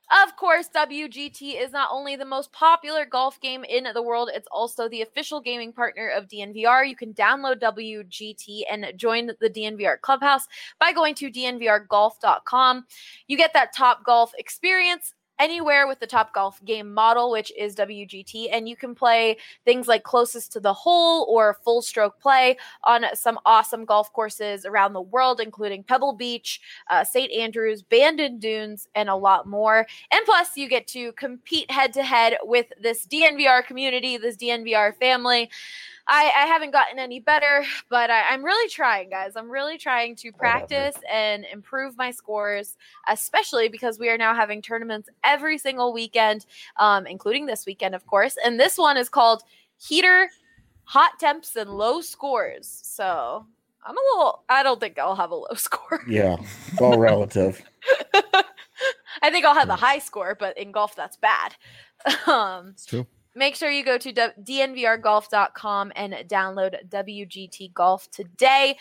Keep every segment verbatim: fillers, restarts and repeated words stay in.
Of course, W G T is not only the most popular golf game in the world, it's also the official gaming partner of D N V R. You can download W G T and join the D N V R Clubhouse by going to D N V R golf dot com. You get that Top Golf experience anywhere with the Top Golf game model, which is W G T, and you can play things like closest to the hole or full stroke play on some awesome golf courses around the world, including Pebble Beach, uh, Saint Andrews, Bandon Dunes, and a lot more. And plus, you get to compete head-to-head with this D N V R community, this D N V R family. I, I haven't gotten any better, but I, I'm really trying, guys. I'm really trying to practice and improve my scores, especially because we are now having tournaments every single weekend, um, including this weekend, of course. And this one is called Heater, Hot Temps, and Low Scores. So I'm a little, I don't think I'll have a low score. Yeah, it's all relative. I think I'll have a high score, but in golf, that's bad. Um, it's true. Make sure you go to D N V R golf dot com and download W G T Golf today.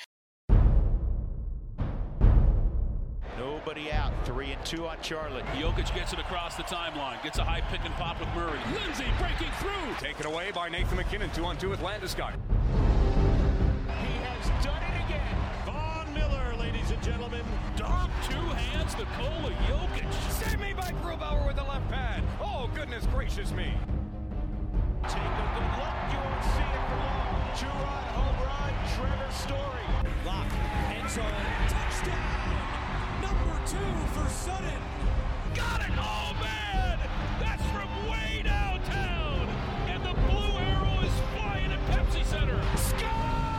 Nobody out. Three and two on Charlotte. Jokic gets it across the timeline. Gets a high pick and pop with Murray. Lindsay breaking through. Taken away by Nathan McKinnon. Two on two with Landeskog. He has done it again. Von Miller, ladies and gentlemen. Dom, two hands, the goal of Jokic. Save me by Grubauer with the left pad. Oh, goodness gracious me. Take a good look. You won't see it for long. Two-run home run. Trevor Story. Lock. End zone. Touchdown. Number two for Sutton. Got it. Oh, man. That's from way downtown. And the blue arrow is flying at Pepsi Center. Score!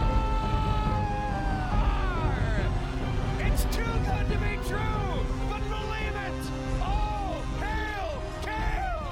It's too good to be true. But believe it. Oh, hail, hail.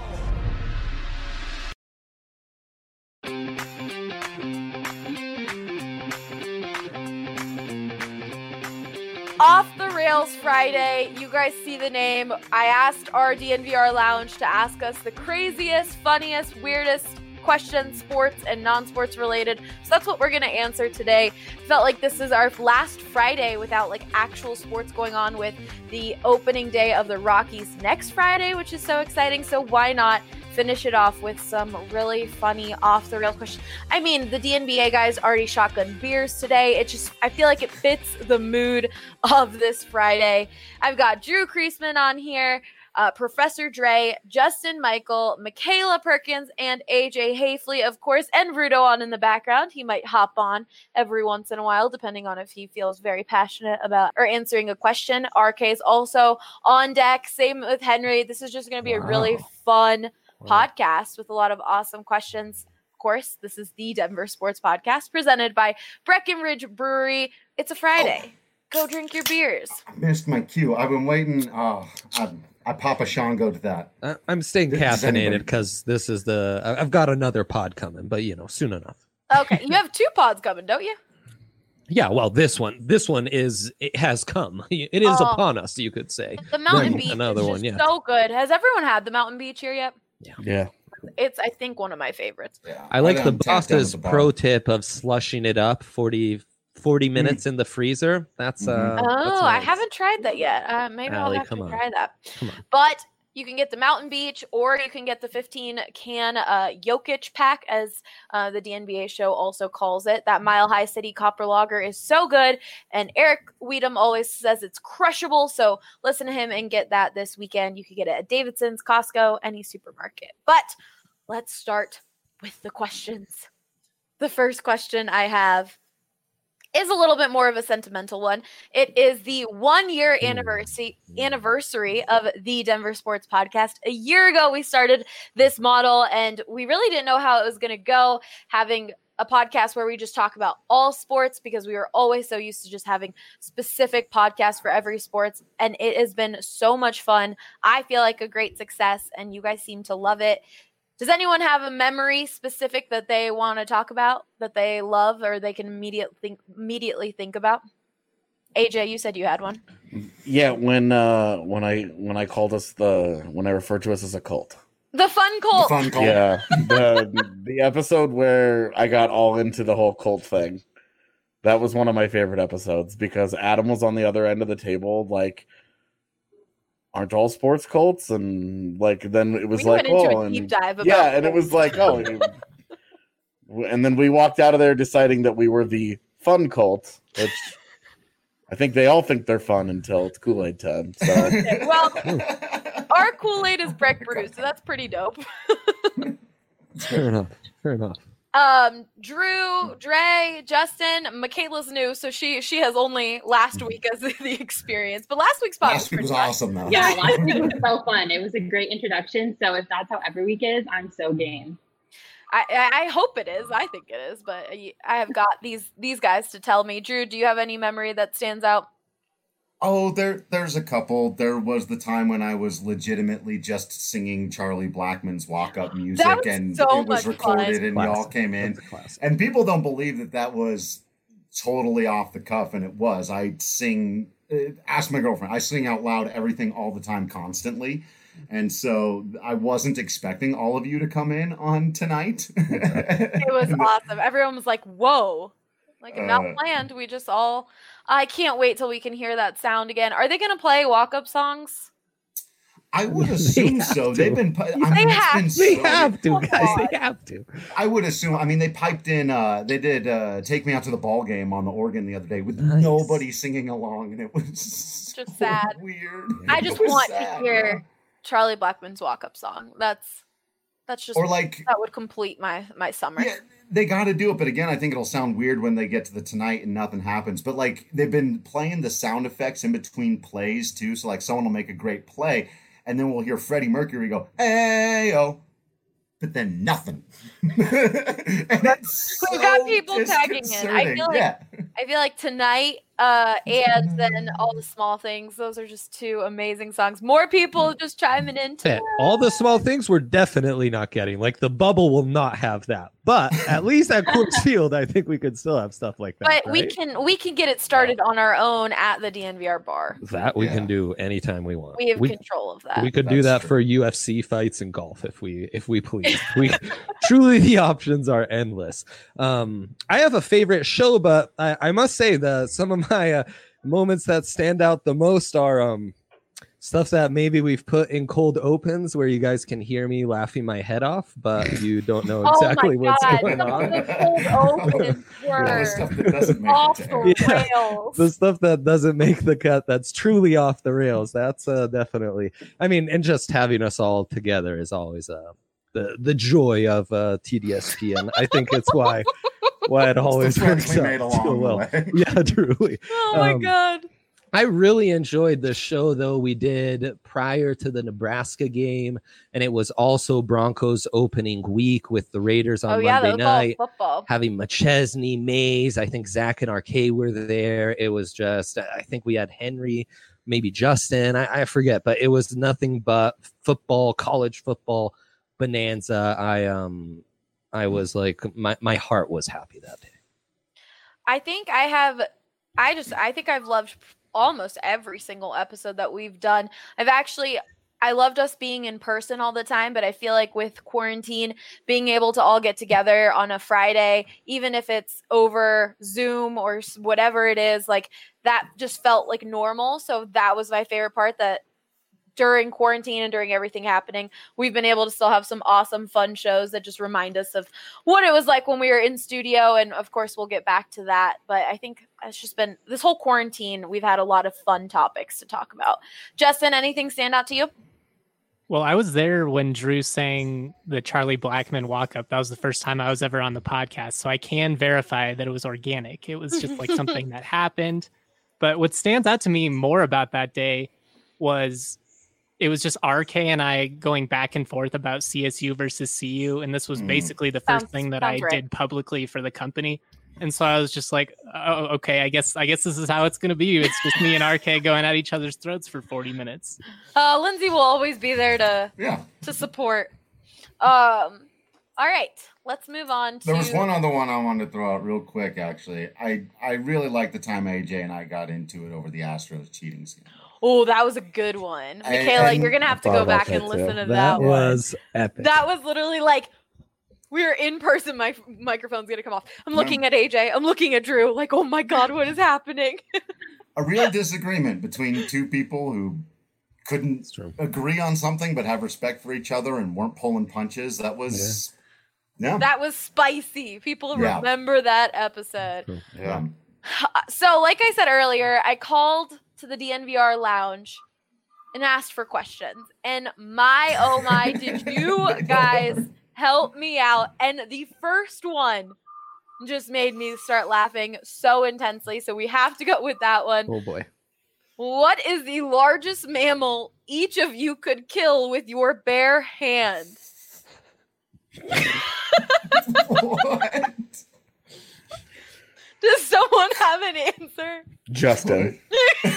Off the Rails Friday. You guys see the name. I asked our D N V R Lounge to ask us the craziest, funniest, weirdest questions, sports and non-sports related. So that's what we're going to answer today. Felt like this is our last Friday without like actual sports going on, with the opening day of the Rockies next Friday, which is so exciting. So why not finish it off with some really funny off the rails questions? I mean, the D N B A guys already shotgun beers today. It just, I feel like it fits the mood of this Friday. I've got Drew Kreisman on here, uh, Professor Dre, Justin Michael, Michaela Perkins, and A J Hafley, of course, and Rudo on in the background. He might hop on every once in a while, depending on if he feels very passionate about or answering a question. R K is also on deck. Same with Henry. This is just going to be wow. a really fun podcast with a lot of awesome questions. Of course, this is the Denver Sports Podcast presented by Breckenridge Brewery. It's a Friday. Oh. Go drink your beers. I missed my cue. I've been waiting. Oh, I, I Papa Shango to that. Uh, I'm staying caffeinated because this is the. I've got another pod coming, but you know, soon enough. Okay, you have two pods coming, don't you? Yeah, well, this one, this one is it has come. It is oh. upon us, you could say. The Mountain then Beach another is one, just yeah. so good. Has everyone had the Mountain Beach here yet? Yeah. Yeah. It's, I think, one of my favorites. Yeah. I like I the boss's the pro tip of slushing it up forty, forty minutes mm. in the freezer. That's uh. Mm-hmm. Oh, that's nice. I haven't tried that yet. Uh, maybe Allie, I'll have to on. try that. Come on. But you can get the Mountain Beach, or you can get the fifteen can uh, Jokic pack, as uh, the D N B A show also calls it. That Mile High City Copper Lager is so good, and Eric Weedham always says it's crushable. So listen to him and get that this weekend. You can get it at Davidson's, Costco, any supermarket. But let's start with the questions. The first question I have is a little bit more of a sentimental one. It is the one year anniversary anniversary of the Denver Sports Podcast. A year ago, we started this model, and we really didn't know how it was going to go, having a podcast where we just talk about all sports, because we were always so used to just having specific podcasts for every sports. And it has been so much fun. I feel like a great success, and you guys seem to love it. Does anyone have a memory specific that they want to talk about, that they love, or they can immediately think, immediately think about? A J, you said you had one. Yeah, when uh, when I when I called us the when I referred to us as a cult. The fun cult. The fun cult. Yeah, the the episode where I got all into the whole cult thing. That was one of my favorite episodes because Adam was on the other end of the table, like aren't all sports cults? And like then it was we like, went into oh, a deep and, dive about yeah, and it was like, oh, and then we walked out of there deciding that we were the fun cult, which I think they all think they're fun until it's Kool-Aid time. So okay, well, our Kool-Aid is Breck Brew, so that's pretty dope. Fair enough. Fair enough. Um, Drew, Dre, Justin, Michaela's new, so she she has only last week as the experience. But last week's spot Last week was fun. awesome, though. Yeah, last week was so fun. It was a great introduction. So if that's how every week is, I'm so game. I, I I hope it is. I think it is, but I have got these these guys to tell me. Drew, do you have any memory that stands out? Oh, there, there's a couple. There was the time when I was legitimately just singing Charlie Blackmon's walk-up music, That was and so it was much recorded, fun. and Classic. y'all came in, That's a classic. and people don't believe that that was totally off the cuff, and it was. I sing. Uh, ask my girlfriend. I sing out loud everything all the time, constantly, and so I wasn't expecting all of you to come in on tonight. It was awesome. Everyone was like, "Whoa!" Like not Uh, planned. We just all. I can't wait till we can hear that sound again. Are they going to play walk-up songs? I would They assume have so. to. They've been. pi- I They mean, it's have been to. They so- have to, Oh, guys. God. They have to. I would assume. I mean, they piped in. Uh, they did uh, "Take Me Out to the Ball Game" on the organ the other day with Nice. nobody singing along, and it was so Just sad. weird. I It just was want sad, to hear Charlie Blackmon's walk-up song. That's that's just Or like, that would complete my my summer. yeah, they got to do it. But again, I think it'll sound weird when they get to the tonight and nothing happens. But like, they've been playing the sound effects in between plays too. So like, someone will make a great play, and then we'll hear Freddie Mercury go, "Hey yo." But then nothing. And it's We've got so people tagging in. I feel disconcerting. like yeah. I feel like tonight, uh, and then all the small things. Those are just two amazing songs. More people just chiming in. Yeah, all the small things we're definitely not getting. Like the bubble will not have that. But at least at Coors Field, I think we could still have stuff like that. But we right? can we can get it started on our own at the D N V R bar. That we Yeah. can do anytime we want. We have we, control of that. we could do That's that true. for U F C fights and golf if we if we please. We truly the options are endless. Um, I have a favorite show, but I, I must say the some of my uh, moments that stand out the most are um stuff that maybe we've put in cold opens where you guys can hear me laughing my head off, but you don't know Oh my exactly what's God, going some of on. the cold opens Yeah, the were stuff that doesn't make off it. the Yeah. rails. The stuff that doesn't make the cut, that's truly off the rails. That's uh, definitely. I mean, and just having us all together is always uh, the the joy of uh, T D S P, and I think it's why why it always It's the friends works we out made so along the well. way. Yeah, truly. Oh my Um, God. I really enjoyed the show though we did prior to the Nebraska game, and it was also Broncos opening week with the Raiders on Oh yeah, Monday that was all night. football. Having McChesney, Mays, I think Zach and R K were there. It was just, I think we had Henry, maybe Justin, I, I forget, but it was nothing but football, college football bonanza. I um, I was like, my my heart was happy that day. I think I have I just I think I've loved almost every single episode that we've done. I've actually I loved us being in person all the time, but I feel like with quarantine, being able to all get together on a Friday, even if it's over Zoom or s- whatever it is, like that just felt like normal. So that was my favorite part, that during quarantine and during everything happening, we've been able to still have some awesome, fun shows that just remind us of what it was like when we were in studio. And of course, we'll get back to that. But I think it's just been this whole quarantine, we've had a lot of fun topics to talk about. Justin, anything stand out to you? Well, I was there when Drew sang the Charlie Blackmon walk up. That was the first time I was ever on the podcast. So I can verify that it was organic. It was just like something that happened. But what stands out to me more about that day was it was just R K and I going back and forth about C S U versus C U. And this was Mm. basically the first Sounds- thing that I sounds right. did publicly for the company. And so I was just like, oh, okay, I guess I guess this is how it's going to be. It's just me and R K going at each other's throats for forty minutes. Uh, Lindsay will always be there to Yeah. to support. Um, all right, let's move on to. There was one other one I wanted to throw out real quick, actually. I, I really liked the time A J and I got into it over the Astros cheating scandal. Oh, that was a good one, I- Michaela. I- you're gonna have to I go thought about back and that, listen too. to that, one. was epic. That was literally like we were in person. My microphone's gonna come off. I'm looking at A J. I'm looking at Drew. Like, oh my God, what is happening? A real disagreement between two people who couldn't It's true. agree on something but have respect for each other and weren't pulling punches. That was, yeah, That was spicy. People Yeah. remember that episode. yeah. So, like I said earlier, I called to the D N V R lounge and asked for questions. And my, oh my, did you guys help me out? And the first one just made me start laughing so intensely. So we have to go with that one. Oh boy. What is the largest mammal each of you could kill with your bare hands? What? Does someone have an answer? Justin. Oh,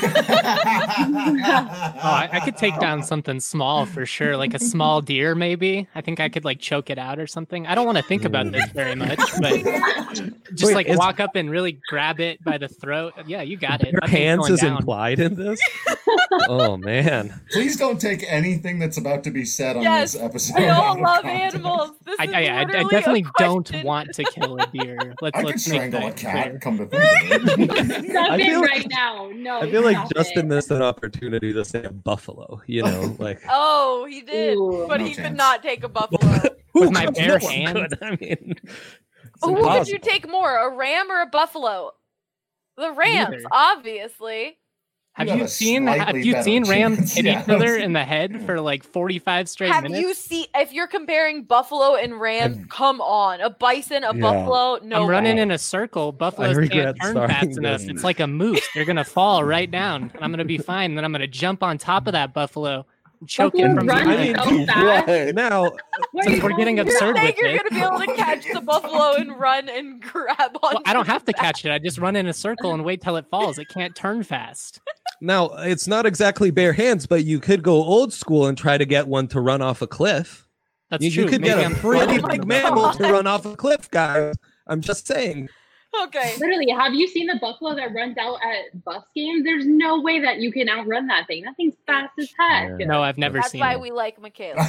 I, I could take down something small for sure, like a small deer, maybe. I think I could like choke it out or something. I don't want to think about this very much, but just Wait, like is- walk up and really grab it by the throat. Yeah, you got it. Your That thing's hands going is down. implied in this? Oh man. Please don't take anything that's about to be said on Yes, this episode. I out don't of love context. animals. This I, is I, I, I literally a definitely don't question. want to kill a deer. Let's I could let's make strangle a that cat. clear. Come to think of it. Stop I it feel right like- now. No. I feel like stop Justin it. missed an opportunity to say a buffalo, you know, like Oh, he did, Ooh, but no he could chance. not take a buffalo. who With my could- bare no one hands? could. I mean, it's Who would you impossible. take more, a ram or a buffalo? The rams, Neither. obviously. Have You have you a seen have slightly you better seen rams chance, hit yeah. each other in the head for like forty-five straight Have minutes? you seen? If you're comparing buffalo and rams, I've- come on, a bison, a Yeah. buffalo, no. I'm running way. in a circle. Buffaloes regret can't turn starting fast enough. this. It's like a moose. They're gonna fall right down, and I'm gonna be fine. Then I'm gonna jump on top of that buffalo, and choke it Buffaloes from run behind. I so mean, fast. What? now What Since are we're you getting doing? You're absurd saying with you're it. gonna be able to catch the buffalo and run and grab on. Well, I don't have to catch it. I just run in a circle and wait till it falls. It can't turn fast. now it's not exactly bare hands, but you could go old school and try to get one to run off a cliff. That's You, true. you could Maybe get a I'm pretty Oh my big mammal to God. run off a cliff, guys. I'm just saying. Okay. Literally, have you seen the buffalo that runs out at bus games? There's no way that you can outrun that thing. That thing's fast as heck. Yeah. No, I've never That's seen why it. we like Michaela.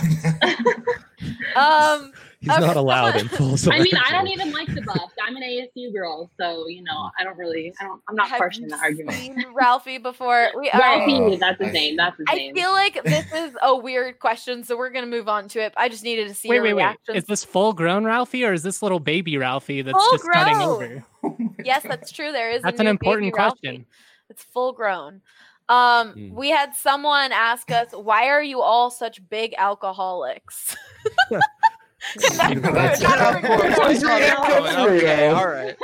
Um, He's Okay. not allowed in full I mean, I don't surrender. even like the Buffs. I'm an A S U girl, so you know, I don't really, I don't, I'm not have partial you in that argument. seen Ralphie before? We all right. Ralphie, that's his I- name. That's his I name. feel like this is a weird question, so we're gonna move on to it. I just needed to see Wait, your wait, wait. reactions. Is this full grown Ralphie or is this little baby Ralphie that's Full just cutting grown. over? Yes, that's true. There is. a That's an new important baby Ralphie. question. It's full grown. Um, Hmm. we had someone ask us, "Why are you all such big alcoholics?" That's- Not a recorded That's question. right. Okay, all right.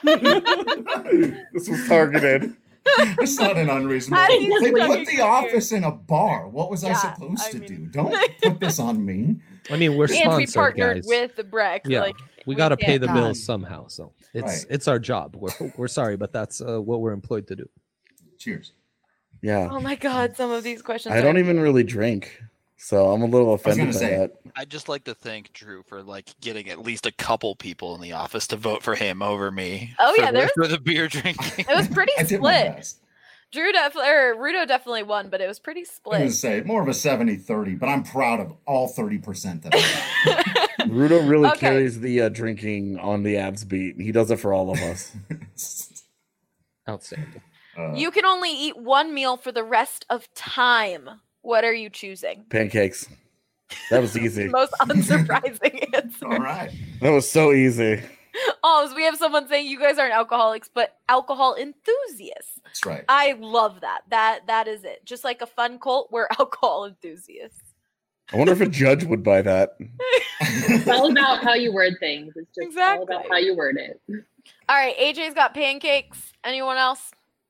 This was targeted. It's not an unreasonable. How do you They just put look the at office in a bar. What was I Yeah, supposed I to mean- do? Don't put this on me. I mean, we're And we sponsored, partnered guys. with the Breck. Yeah. Like we we got to pay can't- the God. bills somehow, so it's Right. it's our job. We're we're sorry, but that's uh, what we're employed to do. Cheers. Yeah. Oh my god, some of these questions. I don't are- even really drink, so I'm a little I was offended gonna by say- that. I'd just like to thank Drew for like getting at least a couple people in the office to vote for him over me. Oh, for yeah, the, there's- for the beer drinking. It was pretty I did my split. best. Drew definitely or Rudo definitely won, but it was pretty I was going to split. say more of a seventy thirty, but I'm proud of all thirty percent that I Rudo really Okay. carries the uh, drinking on the abs beat. He does it for all of us. got. Outstanding. Uh, You can only eat one meal for the rest of time. What are you choosing? Pancakes. That was easy. Most unsurprising answer. all right. That was so easy. Oh, so we have someone saying you guys aren't alcoholics, but alcohol enthusiasts. That's right. I love that. That that is it. Just like a fun cult, we're alcohol enthusiasts. I wonder if a judge would buy that. It's all about how you word things. It's just all about Exactly. how you word it. All right, A J's got pancakes. Anyone else?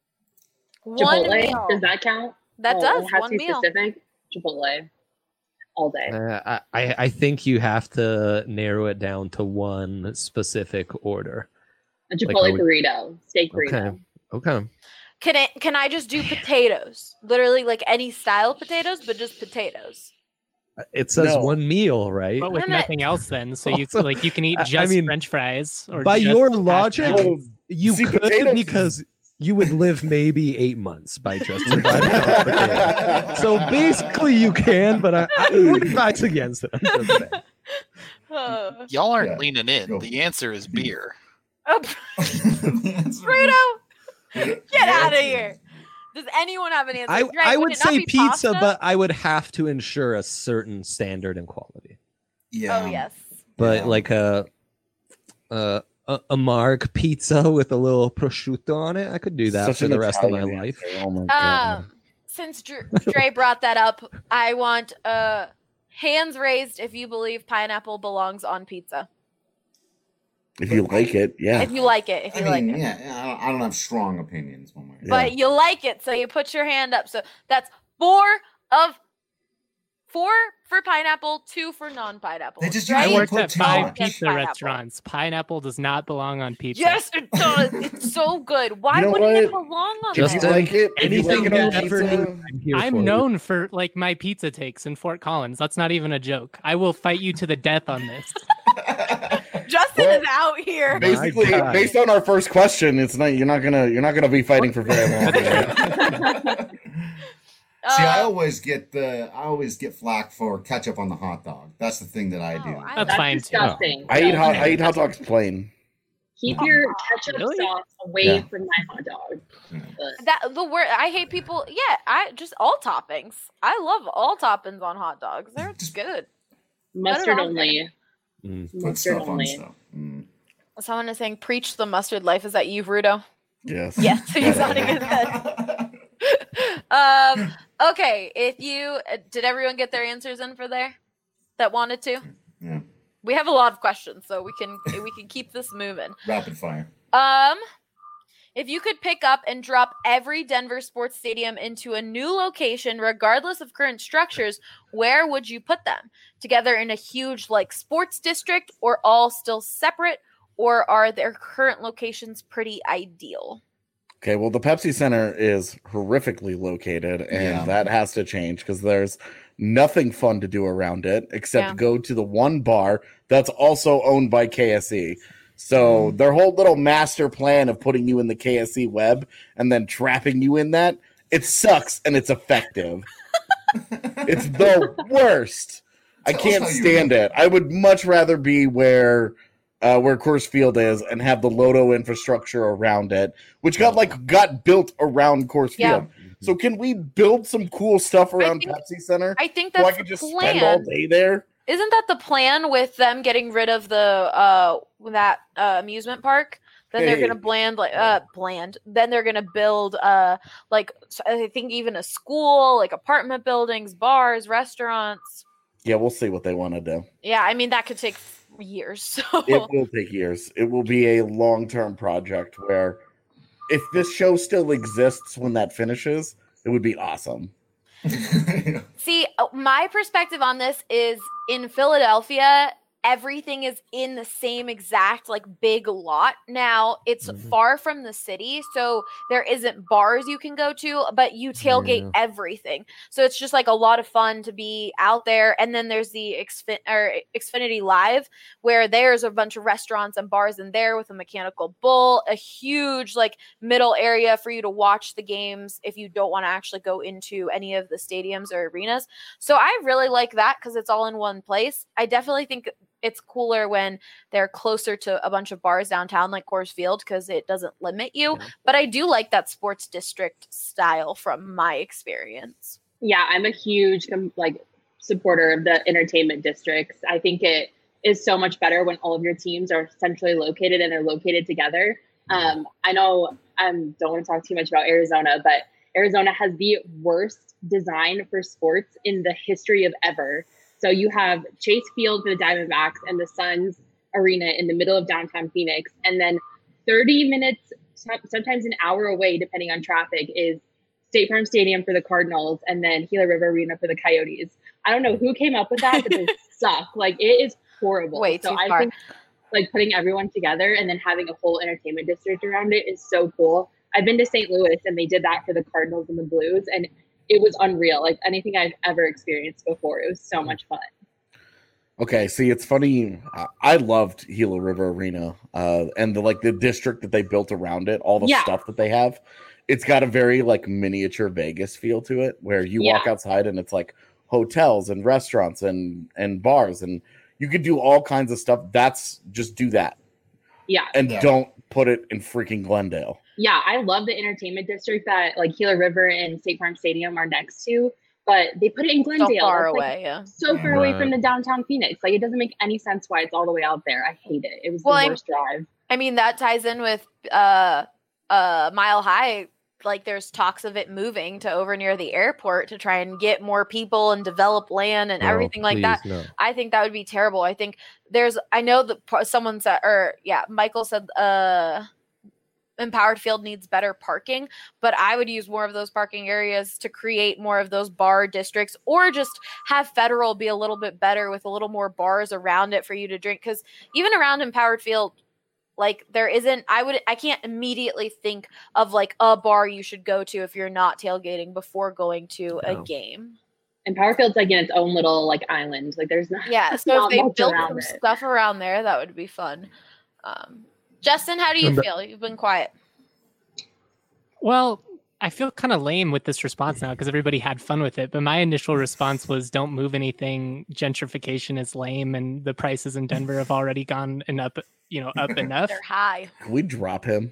One Chipotle, meal. does that count? That Oh, does it has one to be meal. specific. Chipotle, all day. Uh, I I think you have to narrow it down to one specific order. A Like, Chipotle are we- burrito, steak burrito. Okay. Okay. Can it? Can I just do potatoes? Literally, like any style of potatoes, but just potatoes. It says No. one meal, right? But with Wait a minute. nothing else, then, so you Also, like you can eat I- I just mean, French fries. Or By just your hash logic, browns. you See, could potatoes- because you would live maybe eight months by just dividing up potatoes. So basically, you can, but I, I would advise against it. I'm just saying. Oh. Y'all aren't Yeah. leaning in. Go. The answer is beer. Oh, The answer- Bruno, get out of here. Does anyone have an answer? I, Dre, I would would it not say be pizza, pasta? but I would have to ensure a certain standard and quality. Yeah. Oh yes. But Yeah. like a, a a a marg pizza with a little prosciutto on it, I could do that Such for an the rest of my Italian life. answer. Oh my god. Um, since Dre, Dre brought that up, I want uh hands raised if you believe pineapple belongs on pizza. If you like it, yeah. If you like it, if I you mean, like it. yeah, I don't, I don't have strong opinions one way. Yeah. But you like it, so you put your hand up. So that's four of four for pineapple, two for non-pineapple. They just Dre, I usually worked put at too five much. pizza Pineapple. restaurants. Pineapple does not belong on pizza. Yes, it does. It's so good. Why You know wouldn't it what? belong on If you there? like it, if you Anything like it you on ever pizza, need, I'm here for I'm you. known for like my pizza takes in Fort Collins. That's not even a joke. I will fight you to the death on this. Justin Well, is out here. basically, My God. based on our first question, it's not you're not gonna you're not gonna be fighting for very long. right? See, I Uh, always get the I always get flack for ketchup on the hot dog. That's the thing that I do. Oh, I That's That's fine too. disgusting. I eat No. hot I eat hot dogs plain. Keep your ketchup Really? sauce away Yeah. from my hot dog. But that the word I hate people. Yeah, I just all toppings. I love all toppings on hot dogs. They're Just- good. mustard on only. Mm. Put Mustard stuff on only. stuff. Mm. Someone is saying, "Preach the mustard life." Is that you, Rudo? Yes. Yes, he's nodding his head. Um. Okay. If you uh, did, everyone get their answers in for there that wanted to. Yeah. We have a lot of questions, so we can we can keep this moving. Rapid fire. Um, if you could pick up and drop every Denver sports stadium into a new location, regardless of current structures, where would you put them? Together in a huge like sports district, or all still separate, or are their current locations pretty ideal? Okay, well, the Pepsi Center is horrifically located, and Yeah. that has to change because there's nothing fun to do around it except Yeah. go to the one bar that's also owned by K S E. So their whole little master plan of putting you in the K S E web and then trapping you in that, it sucks and it's effective. It's the worst. I Tell us can't how you stand know. it. I would much rather be where uh, where Coors Field is and have the Loto infrastructure around it, which got like got built around Coors Yeah. Field. So can we build some cool stuff around think- Pepsi Center? I think so I that's could the just spend all plan. day there. Isn't that the plan with them getting rid of the uh that uh, amusement park? Then they're Hey. gonna bland like uh bland. Then they're gonna build uh like s- I think even a school, like apartment buildings, bars, restaurants. Yeah, we'll see what they want to do. Yeah, I mean that could take years. So It will take years. It will be a long-term project where if this show still exists when that finishes, it would be awesome. see, uh, my perspective on this is in Philadelphia, everything is in the same exact like big lot. Now it's Mhm. far from the city, so there isn't bars you can go to, but you tailgate Yeah. everything. So it's just like a lot of fun to be out there. And then there's the Xfin- or Xfinity Live, where there's a bunch of restaurants and bars in there with a mechanical bull, a huge like middle area for you to watch the games if you don't want to actually go into any of the stadiums or arenas. So I really like that because it's all in one place. I definitely think it's cooler when they're closer to a bunch of bars downtown like Coors Field because it doesn't limit you. Yeah. But I do like that sports district style from my experience. Yeah, I'm a huge com- like supporter of the entertainment districts. I think it is so much better when all of your teams are centrally located and they're located together. Um, I know I um, don't want to talk too much about Arizona, but Arizona has the worst design for sports in the history of ever. So you have Chase Field for the Diamondbacks and the Suns Arena in the middle of downtown Phoenix. And then thirty minutes, some- sometimes an hour away, depending on traffic, is State Farm Stadium for the Cardinals and then Gila River Arena for the Coyotes. I don't know who came up with that, but they suck. Like, it is horrible. Way so too I far. think like putting everyone together and then having a whole entertainment district around it is so cool. I've been to Saint Louis and they did that for the Cardinals and the Blues, and it was unreal. Like anything I've ever experienced before. It was so much fun. Okay, see, it's funny. I- I loved Gila River Arena, uh, and the like the district that they built around it, all the Yeah. stuff that they have. It's got a very like miniature Vegas feel to it, where you walk Yeah. outside and it's like hotels and restaurants and and bars, and you could do all kinds of stuff. That's just do that, Yeah. and Yeah. don't put it in freaking Glendale. Yeah, I love the entertainment district that like Gila River and State Farm Stadium are next to, but they put it in Glendale. So far That's, like, away, yeah. So far away from Right. the downtown Phoenix. Like, it doesn't make any sense why it's all the way out there. I hate it. It was Well, the I'm- worst drive. I mean, that ties in with uh, uh, Mile High. Like, there's talks of it moving to over near the airport to try and get more people and develop land and No, everything like that. please, no. I think that would be terrible. I think there's, I know that p- someone said, or yeah, Michael said, uh, Empowered Field needs better parking, but I would use more of those parking areas to create more of those bar districts, or just have Federal be a little bit better with a little more bars around it for you to drink. Because even around Empowered Field, like there isn't, I would, I can't immediately think of like a bar you should go to if you're not tailgating before going to a No. game. And Powerfield's like in its own little like island. Like there's not Yeah, so not if they much built around some it. stuff around there, that would be fun. Um, Justin, how do you Remember- feel? You've been quiet. Well, I feel kind of lame with this response now because everybody had fun with it. But my initial response was, "Don't move anything. Gentrification is lame, and the prices in Denver have already gone and up, you know, up enough." They're high. Can we drop him?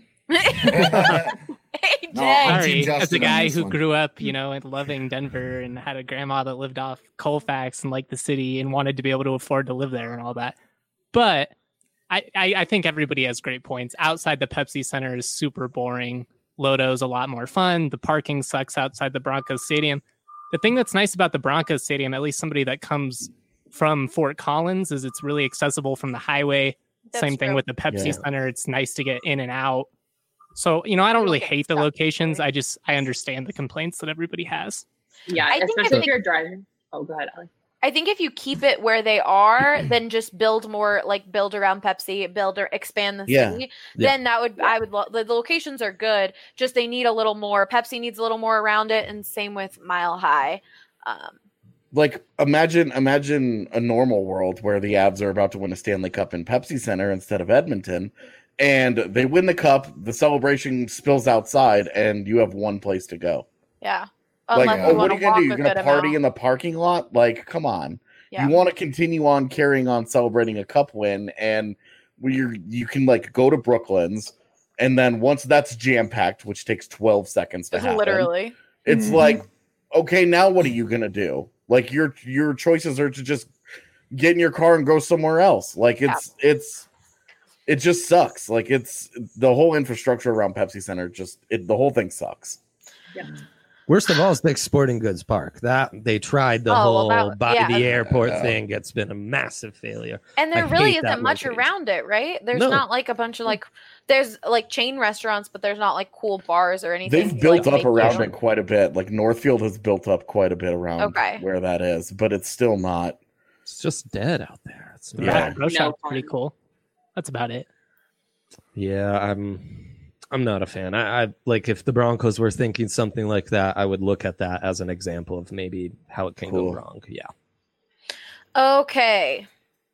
Hey, No, Jay. I'm Sorry, Team as a Justin on guy this who one. grew up, you know, and loving Denver and had a grandma that lived off Colfax and liked the city and wanted to be able to afford to live there and all that. But I, I, I think everybody has great points. Outside the Pepsi Center is super boring. Lodo's a lot more fun. The parking sucks outside the Broncos Stadium. The thing that's nice about the Broncos Stadium, at least somebody that comes from Fort Collins, is it's really accessible from the highway. That's Same thing true. with the Pepsi Yeah. Center. It's nice to get in and out. So, you know, I don't You really don't get hate the stuck locations. easily. I just, I understand the complaints that everybody has. Yeah, I think especially if if they- you're driving. Oh, go ahead, Allie. I think if you keep it where they are, then just build more, like build around Pepsi, build or expand the Yeah. city. Yeah. Then that would, I would, lo- the, the locations are good. Just they need a little more. Pepsi needs a little more around it, and same with Mile High. Um, Like imagine imagine a normal world where the Avs are about to win a Stanley Cup in Pepsi Center instead of Edmonton, and they win the cup, the celebration spills outside, and you have one place to go. yeah. Like, Unless oh, you what want are you to gonna walk do? a You're gonna good party amount. in the parking lot? Like, come on. Yeah. You want to continue on carrying on celebrating a cup win, and where you you can like go to Brooklyn's, and then once that's jam packed, which takes twelve seconds to happen, Literally. it's Mhm. like, okay, now what are you gonna do? Like your your choices are to just get in your car and go somewhere else. Like it's it's it just sucks. Like it's the whole infrastructure around Pepsi Center. Just it, the whole thing sucks. Yeah. Worst of all is Dick's Sporting Goods Park. That they tried the Oh, well, whole that- by yeah. the airport Yeah. thing. It's been a massive failure. And there I really hate that isn't much location. around it, right? There's No. not like a bunch of like, there's like chain restaurants, but there's not like cool bars or anything. They've to, built like, up make around you- it quite a bit. Like Northfield has built up quite a bit around Okay. where that is, but it's still not. It's just dead out there. It's The Yeah. Baton Rouge No shop's pretty fun. cool. That's about it. Yeah, I'm I'm not a fan. I, I like if the Broncos were thinking something like that, I would look at that as an example of maybe how it can Cool. go wrong. Yeah. Okay.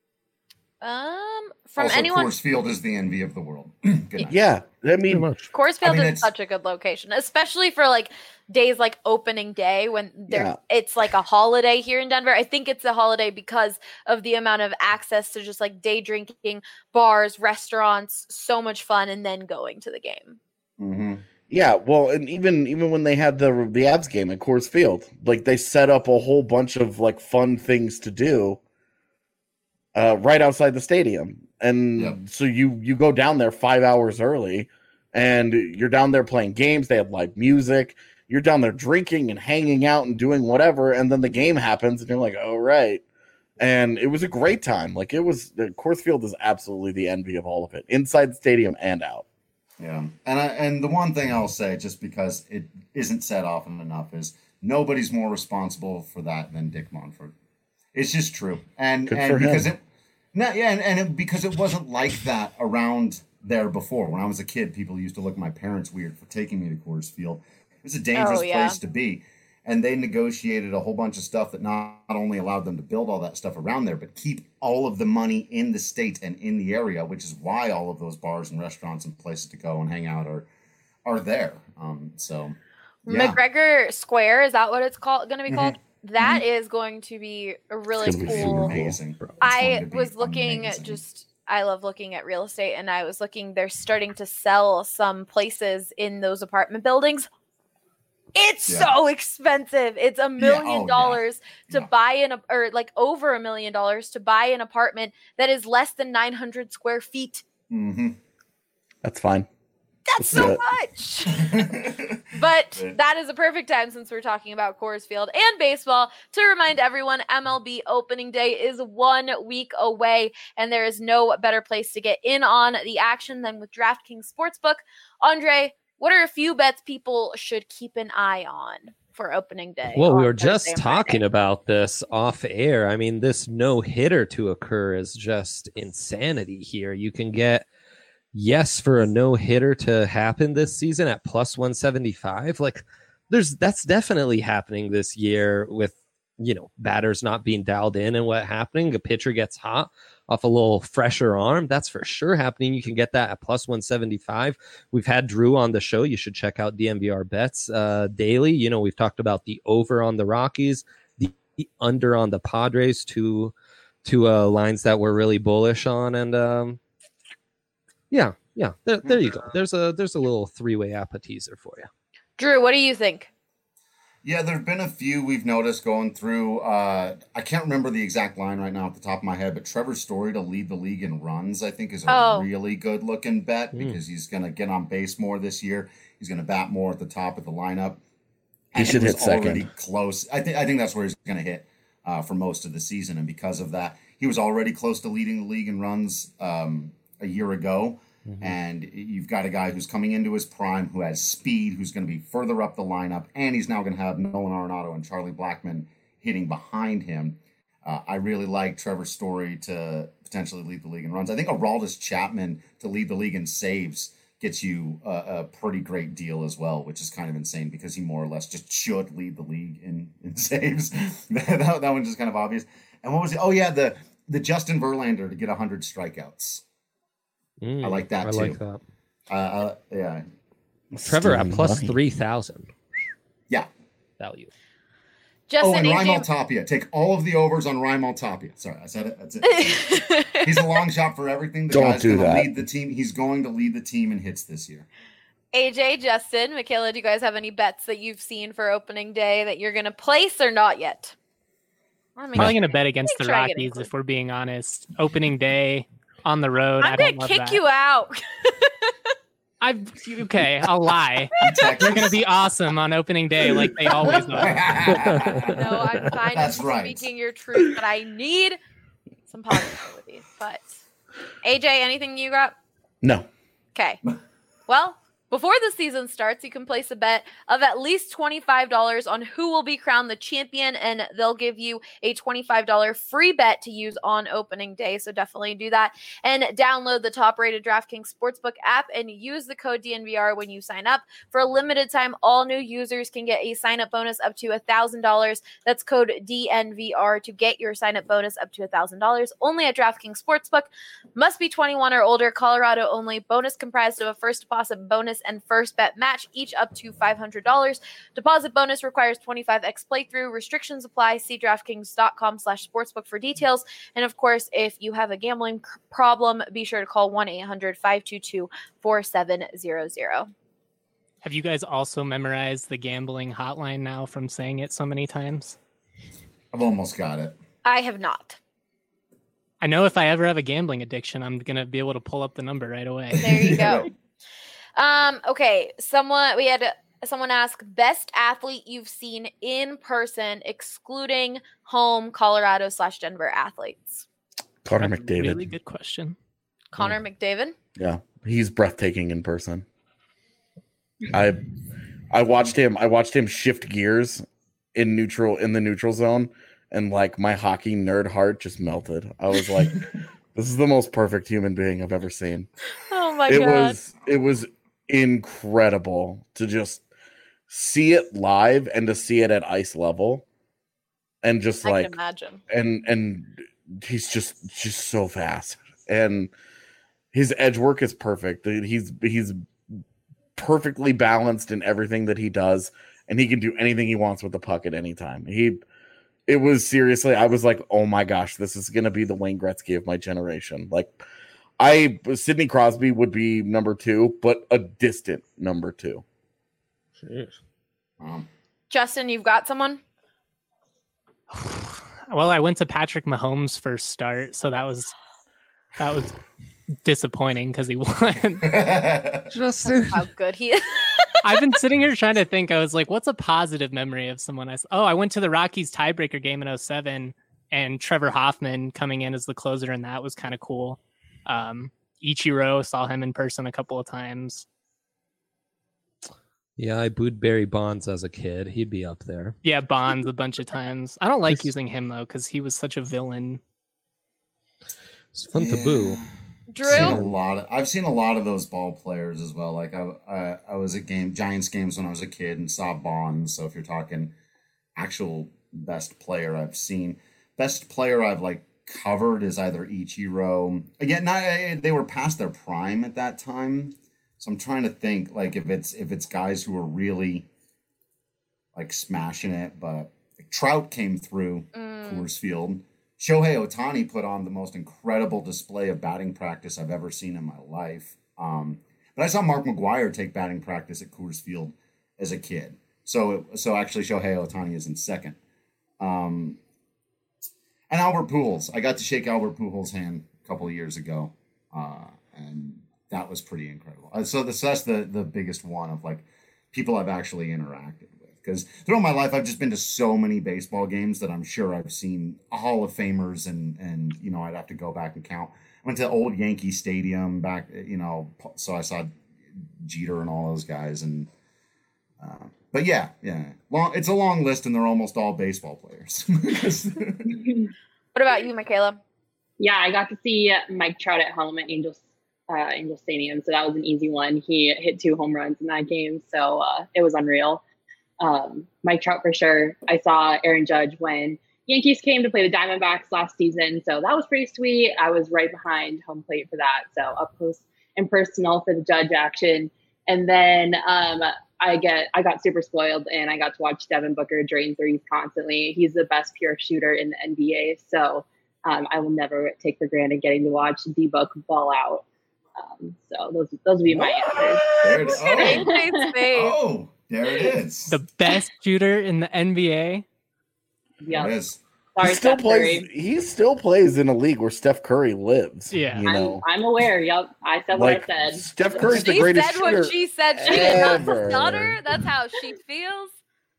Um, from also, anyone, Coors Field is the envy of the world. Good night. Yeah, I Pretty mean, much. Coors Field I mean, is it's- such a good location, especially for like days like opening day when there Yeah. it's like a holiday here in Denver. I think it's a holiday because of the amount of access to just like day drinking, bars, restaurants, so much fun, and then going to the game. Mm-hmm. yeah. Well, and even even when they had the the Avs game at Coors Field, like they set up a whole bunch of like fun things to do uh, right outside the stadium, and Yep. so you you go down there five hours early, and you're down there playing games. They have live music. You're down there drinking and hanging out and doing whatever, and then the game happens, and you're like, "Oh right." And it was a great time. Like it was, the Coors Field is absolutely the envy of all of it, inside the stadium and out. Yeah, and I, and the one thing I'll say, just because it isn't said often enough, is nobody's more responsible for that than Dick Monfort. It's just true, and Good and for because him. it, no, yeah, and, and it, because it wasn't like that around there before. When I was a kid, people used to look at my parents weird for taking me to Coors Field. It was a dangerous Oh, yeah. place to be, and they negotiated a whole bunch of stuff that not, not only allowed them to build all that stuff around there, but keep all of the money in the state and in the area, which is why all of those bars and restaurants and places to go and hang out are are there. Um, so yeah. McGregor Square, is that what it's called? Going to be Mhm. called? That is going to be a really It's gonna be cool. super amazing. Bro. It's I going to be was looking at amazing. just I love looking at real estate, and I was looking, they're starting to sell some places in those apartment buildings. It's Yeah. so expensive. It's a million Oh, yeah. dollars to Yeah. buy an, or like over a million dollars to buy an apartment that is less than nine hundred square feet. Mm-hmm. That's fine. That's Let's do so it. much. But that is a perfect time, since we're talking about Coors Field and baseball, to remind everyone M L B opening day is one week away, and there is no better place to get in on the action than with DraftKings Sportsbook. Andre, what are a few bets people should keep an eye on for opening day? Well, we on were Thursday just and talking Friday? about this off air. I mean, this no hitter to occur is just insanity here. You can get yes for a no hitter to happen this season at plus one seventy-five. Like, there's that's definitely happening this year with, you know, batters not being dialed in and what happening. A pitcher gets hot off a little fresher arm. That's for sure happening. You can get that at plus one seventy-five. We've had Drew on the show. You should check out D N V R bets uh, daily. You know, we've talked about the over on the Rockies, the under on the Padres, two, two uh, lines that we're really bullish on. And um, yeah, yeah, there, there you go. There's a, there's a little three-way appetizer for you. Drew, what do you think? Yeah, there have been a few we've noticed going through. Uh, I can't remember the exact line right now off the top of my head, but Trevor Story to lead the league in runs, I think, is a Oh. really good looking bet Mm. because he's going to get on base more this year. He's going to bat more at the top of the lineup. He should was hit second. Already close. I think I think that's where he's going to hit uh, for most of the season, and because of that, he was already close to leading the league in runs um, a year ago. And you've got a guy who's coming into his prime, who has speed, who's going to be further up the lineup, and he's now going to have Nolan Arenado and Charlie Blackmon hitting behind him. Uh, I really like Trevor Story to potentially lead the league in runs. I think Aroldis Chapman to lead the league in saves gets you a, a pretty great deal as well, which is kind of insane because he more or less just should lead the league in, in saves. that, that one's just kind of obvious. And what was it? Oh, yeah, the, the Justin Verlander to get one hundred strikeouts. Mm, I like that I too. like that. Uh, uh, yeah. Trevor at Stealing plus money. three thousand Yeah. value. Justin, oh, and A Raimel J Tapia. Take all of the overs on Raimel Tapia. Sorry, I said it. That's it. He's a long shot for everything. The Don't guy's do going to that. lead the team. He's going to lead the team in hits this year. A J, Justin, Michaela, do you guys have any bets that you've seen for opening day that you're going to place or not yet? I mean, Probably going to bet against Make the sure I get Rockies included. if we're being honest. Opening day on the road. I I'm don't going to love kick that. you out. I okay, I'll lie. Texas. They're going to be awesome on opening day, like they always are. No, I'm fine That's with right. speaking your truth, but I need some positivity. But A J, anything you got? No. Okay. Well, before the season starts, you can place a bet of at least twenty-five dollars on who will be crowned the champion, and they'll give you a twenty-five dollars free bet to use on opening day. So definitely do that and download the top-rated DraftKings Sportsbook app and use the code D N V R when you sign up. For a limited time, all new users can get a sign-up bonus up to one thousand dollars. That's code D N V R to get your sign-up bonus up to one thousand dollars. Only at DraftKings Sportsbook. Must be twenty-one or older. Colorado only. Bonus comprised of a first deposit bonus and first bet match, each up to five hundred dollars. Deposit bonus requires twenty-five x playthrough. Restrictions apply. See DraftKings.com slash sportsbook for details. And of course, if you have a gambling c- problem, be sure to call one eight hundred five two two four seven zero zero. Have you guys also memorized the gambling hotline now from saying it so many times? I've almost got it. I have not. I know if I ever have a gambling addiction, I'm going to be able to pull up the number right away. There you go. Um, okay, someone we had someone ask best athlete you've seen in person, excluding home Colorado slash Denver athletes. Connor That's a McDavid. Really good question. Connor McDavid. Yeah, he's breathtaking in person. I I watched him. I watched him shift gears in neutral in the neutral zone, and like my hockey nerd heart just melted. I was like, "This is the most perfect human being I've ever seen." Oh my it god! was it was incredible to just see it live and to see it at ice level, and just I like can imagine. and and he's just just so fast, and his edge work is perfect. He's he's perfectly balanced in everything that he does, and he can do anything he wants with the puck at any time. He it was seriously, I was like, oh my gosh, this is gonna be the Wayne Gretzky of my generation. Like, I Sidney Crosby would be number two, but a distant number two. Um, Justin, you've got someone? Well, I went to Patrick Mahomes' first start, so that was that was disappointing because he won. Justin, How good he is. I've been sitting here trying to think. I was like, what's a positive memory of someone I s- Oh, I went to the Rockies tiebreaker game in oh seven, and Trevor Hoffman coming in as the closer, and that was kind of cool. Um, Ichiro, saw him in person a couple of times. yeah, I booed Barry Bonds as a kid. He'd be up there. Yeah, Bonds a bunch of times. I don't like using him, though, because he was such a villain. It's fun to boo. I've seen a Drew? lot of, I've seen a lot of those ball players as well. Like I, I, I was at game Giants games when I was a kid and saw Bonds. So if you're talking actual best player I've seen, best player I've like covered is either Ichiro. Again, not they were past their prime at that time. So I'm trying to think like if it's if it's guys who are really like smashing it, but like, Trout came through Mm. Coors Field. Shohei Ohtani put on the most incredible display of batting practice I've ever seen in my life. Um, but I saw Mark McGwire take batting practice at Coors Field as a kid. So so actually Shohei Ohtani is in second. Um, and Albert Pujols. I got to shake Albert Pujols' hand a couple of years ago. Uh, and that was pretty incredible. Uh, so, this, so that's the, the biggest one of like people I've actually interacted with. Because throughout my life, I've just been to so many baseball games that I'm sure I've seen Hall of Famers, and and you know I'd have to go back and count. I went to old Yankee Stadium back, you know, so I saw Jeter and all those guys. And uh, but yeah, yeah, long. It's a long list, and they're almost all baseball players. What about you, Michaela? Yeah, I got to see Mike Trout at home at Angels uh, Angel Stadium, so that was an easy one. He hit two home runs in that game, so uh, it was unreal. Um, Mike Trout for sure. I saw Aaron Judge when Yankees came to play the Diamondbacks last season, so that was pretty sweet. I was right behind home plate for that, so up close and personal for the Judge action. And then um, I get I got super spoiled, and I got to watch Devin Booker drain threes constantly. He's the best pure shooter in the N B A, so um, I will never take for granted getting to watch D-Book ball out. Um, so those those would be my answers. There it is. Oh. Space, space. Oh, there it is. The best shooter in the N B A. Yeah. There it is. Sorry, he still Steph plays. Curry. He still plays in a league where Steph Curry lives. Yeah. you know, I'm, I'm aware. Yep. I said like what I said. Steph Curry's the She greatest said shooter what she said. She did not ever. stutter. That's how she feels.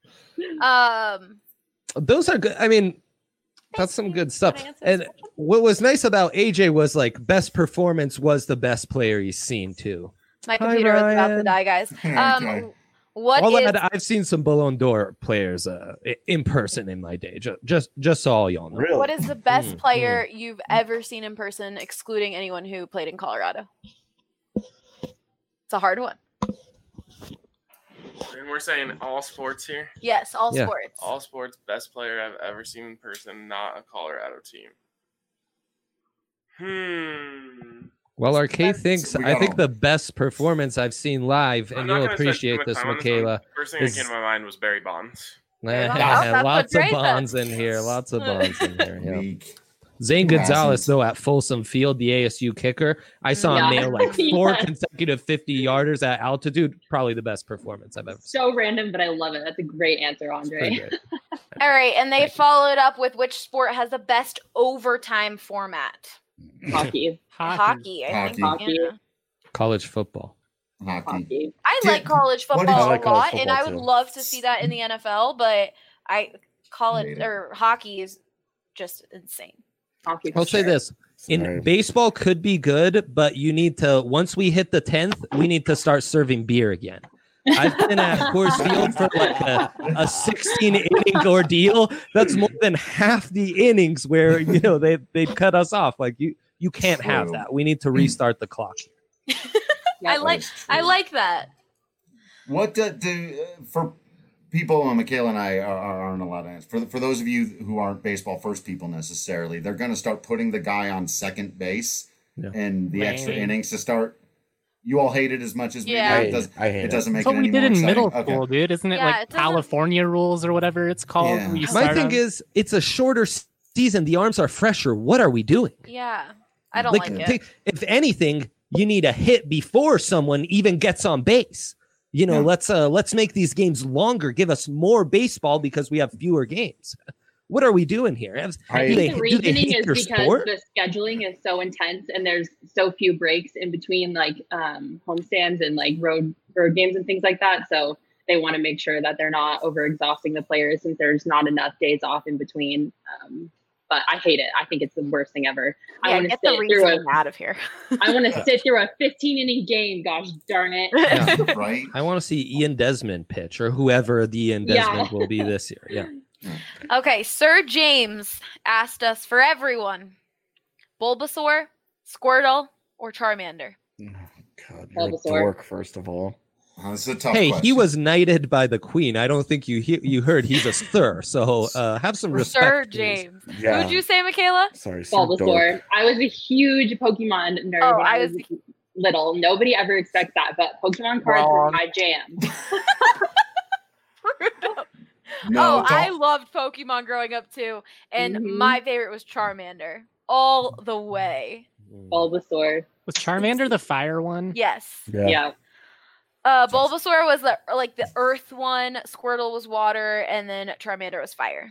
Um, Those are good. I mean, that's some good stuff. Good answers. And what was nice about A J was like best performance was the best player he's seen too. my Hi, computer was about to Ryan. die, guys. Okay. Um, what All is that, I've seen some Ballon d'Or players uh, i- in person in my day. Just, just, just so all y'all know. Really? what is the best Mm, player you've ever seen in person, excluding anyone who played in Colorado? It's a hard one. And we're saying all sports here. Yes, all Yeah. sports. All sports, best player I've ever seen in person, not a Colorado team. Hmm. Well, Arcade Best- thinks We I got think all- the best performance I've seen live, I'm and not you'll gonna spend too appreciate much this, time on this one. Michaela. First thing is- that came to my mind was Barry Bonds. Barry Bonds. That's Lots what of Dre said. bonds in here. Lots of bonds in here. Yeah. Weak. Zane Who Gonzalez, hasn't? though, at Folsom Field, the A S U kicker, I saw him Yeah. nail like four Yeah. consecutive fifty yarders at altitude. Probably the best performance I've ever seen. So random, but I love it. That's a great answer, It's pretty Andre. great. All right, and they Thank you. followed up with which sport has the best overtime format? Hockey. Hockey, I think. Hockey. Yeah. College football. Hockey. Hockey. I Did- like college what football did- I like a college lot, and football, I would too. love to see that in the N F L, but I college Hate it. or hockey is just insane. Hockey. for I'll say sure. this. In Sorry. baseball could be good, but you need to once we hit the tenth, we need to start serving beer again. I've been at Coors Field for like a, a sixteen inning ordeal. That's more than half the innings where you know they they'd cut us off. Like you you can't have True. that. We need to restart the clock. I Yeah. like That is I true. like that. What do, do uh, for people? Uh, Michaela and I are, are, aren't allowed to answer. For for those of you who aren't baseball first people necessarily, they're going to start putting the guy on second base Yeah. and the extra Lame. innings to start. You all hate it as much as we Yeah. do. I It, hate does, it. I hate it it. doesn't make That's what it we any did more in exciting. middle Okay. school, dude. Isn't it Yeah, like it doesn't- California rules or whatever it's called? Yeah. where you My start thing on- is, it's a shorter season. The arms are fresher. What are we doing? Yeah. I don't like, like it. If anything, you need a hit before someone even gets on base. You know, yeah. let's uh, let's make these games longer. Give us more baseball because we have fewer games. What are we doing here? I think they, the reasoning is because sport? the scheduling is so intense and there's so few breaks in between like um, homestands and like road road games and things like that. So they want to make sure that they're not over exhausting the players since there's not enough days off in between. Um, but I hate it. I think it's the worst thing ever. Yeah, I want to get sit the through a, out of here. I want to sit through a fifteen inning game. Gosh darn it! Yeah. Right. I want to see Ian Desmond pitch or whoever the Ian Desmond Yeah. will be this year. Yeah. Okay, Sir James asked us for everyone: Bulbasaur, Squirtle, or Charmander. Oh, God, you're a you're a Bulbasaur. dork, first of all. Oh, this is a tough Hey, question. he was knighted by the queen. I don't think you he- you heard he's a sir. So uh, have some respect. Sir please. James. Yeah. Who'd you say, Michaela? Sorry, Sir Dork. Bulbasaur. I was a huge Pokemon nerd Oh, when I I was little. Nobody ever expects that, but Pokemon cards were Wrong. my jam. No, oh, I don't- loved Pokemon growing up too, and Mhm. my favorite was Charmander all the way. Bulbasaur. Was Charmander the fire one? Yes. Yeah. Yeah. Uh, Bulbasaur was the like the Earth one. Squirtle was water, and then Charmander was fire.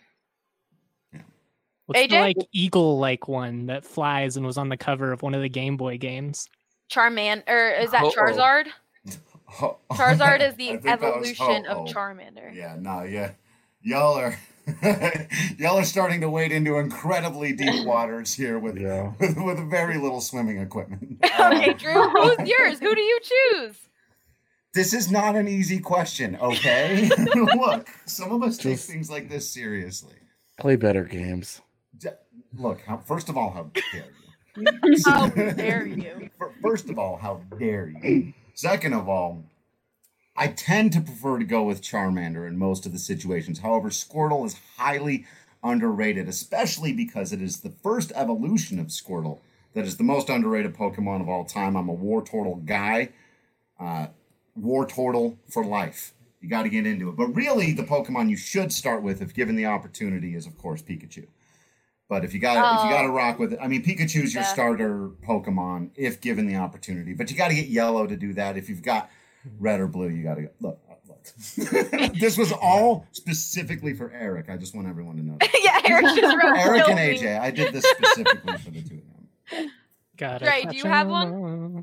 What's A J? the like eagle like one that flies and was on the cover of one of the Game Boy games? Charmander, or is that Uh-oh. Charizard? Ho- Charizard is I the think that was evolution Ho-Oh. of Charmander. Yeah, no, yeah. Y'all are y'all are starting to wade into incredibly deep waters here with Yeah. with, with very little swimming equipment. Okay, Um, Drew, who's yours? Who do you choose? This is not an easy question, okay? Look, some of us take Just- things like this seriously. Play better games. D- Look, how, first of all, how dare you? How dare you? Fir- First of all, how dare you? Second of all, I tend to prefer to go with Charmander in most of the situations. However, Squirtle is highly underrated, especially because it is the first evolution of Squirtle that is the most underrated Pokemon of all time. I'm a Wartortle guy. Uh, Wartortle for life. You got to get into it. But really, the Pokemon you should start with, if given the opportunity, is of course Pikachu. But if you got if you got to Oh. rock with it, I mean, Pikachu's your Yeah. starter Pokemon if given the opportunity. But you got to get Yellow to do that. If you've got Red or Blue, you got to go. Look, look. This was all specifically for Eric. I just want everyone to know. That. Yeah, Eric just wrote Eric kill and me. A J, I did this specifically for the two of them. Got Dre, do you have one?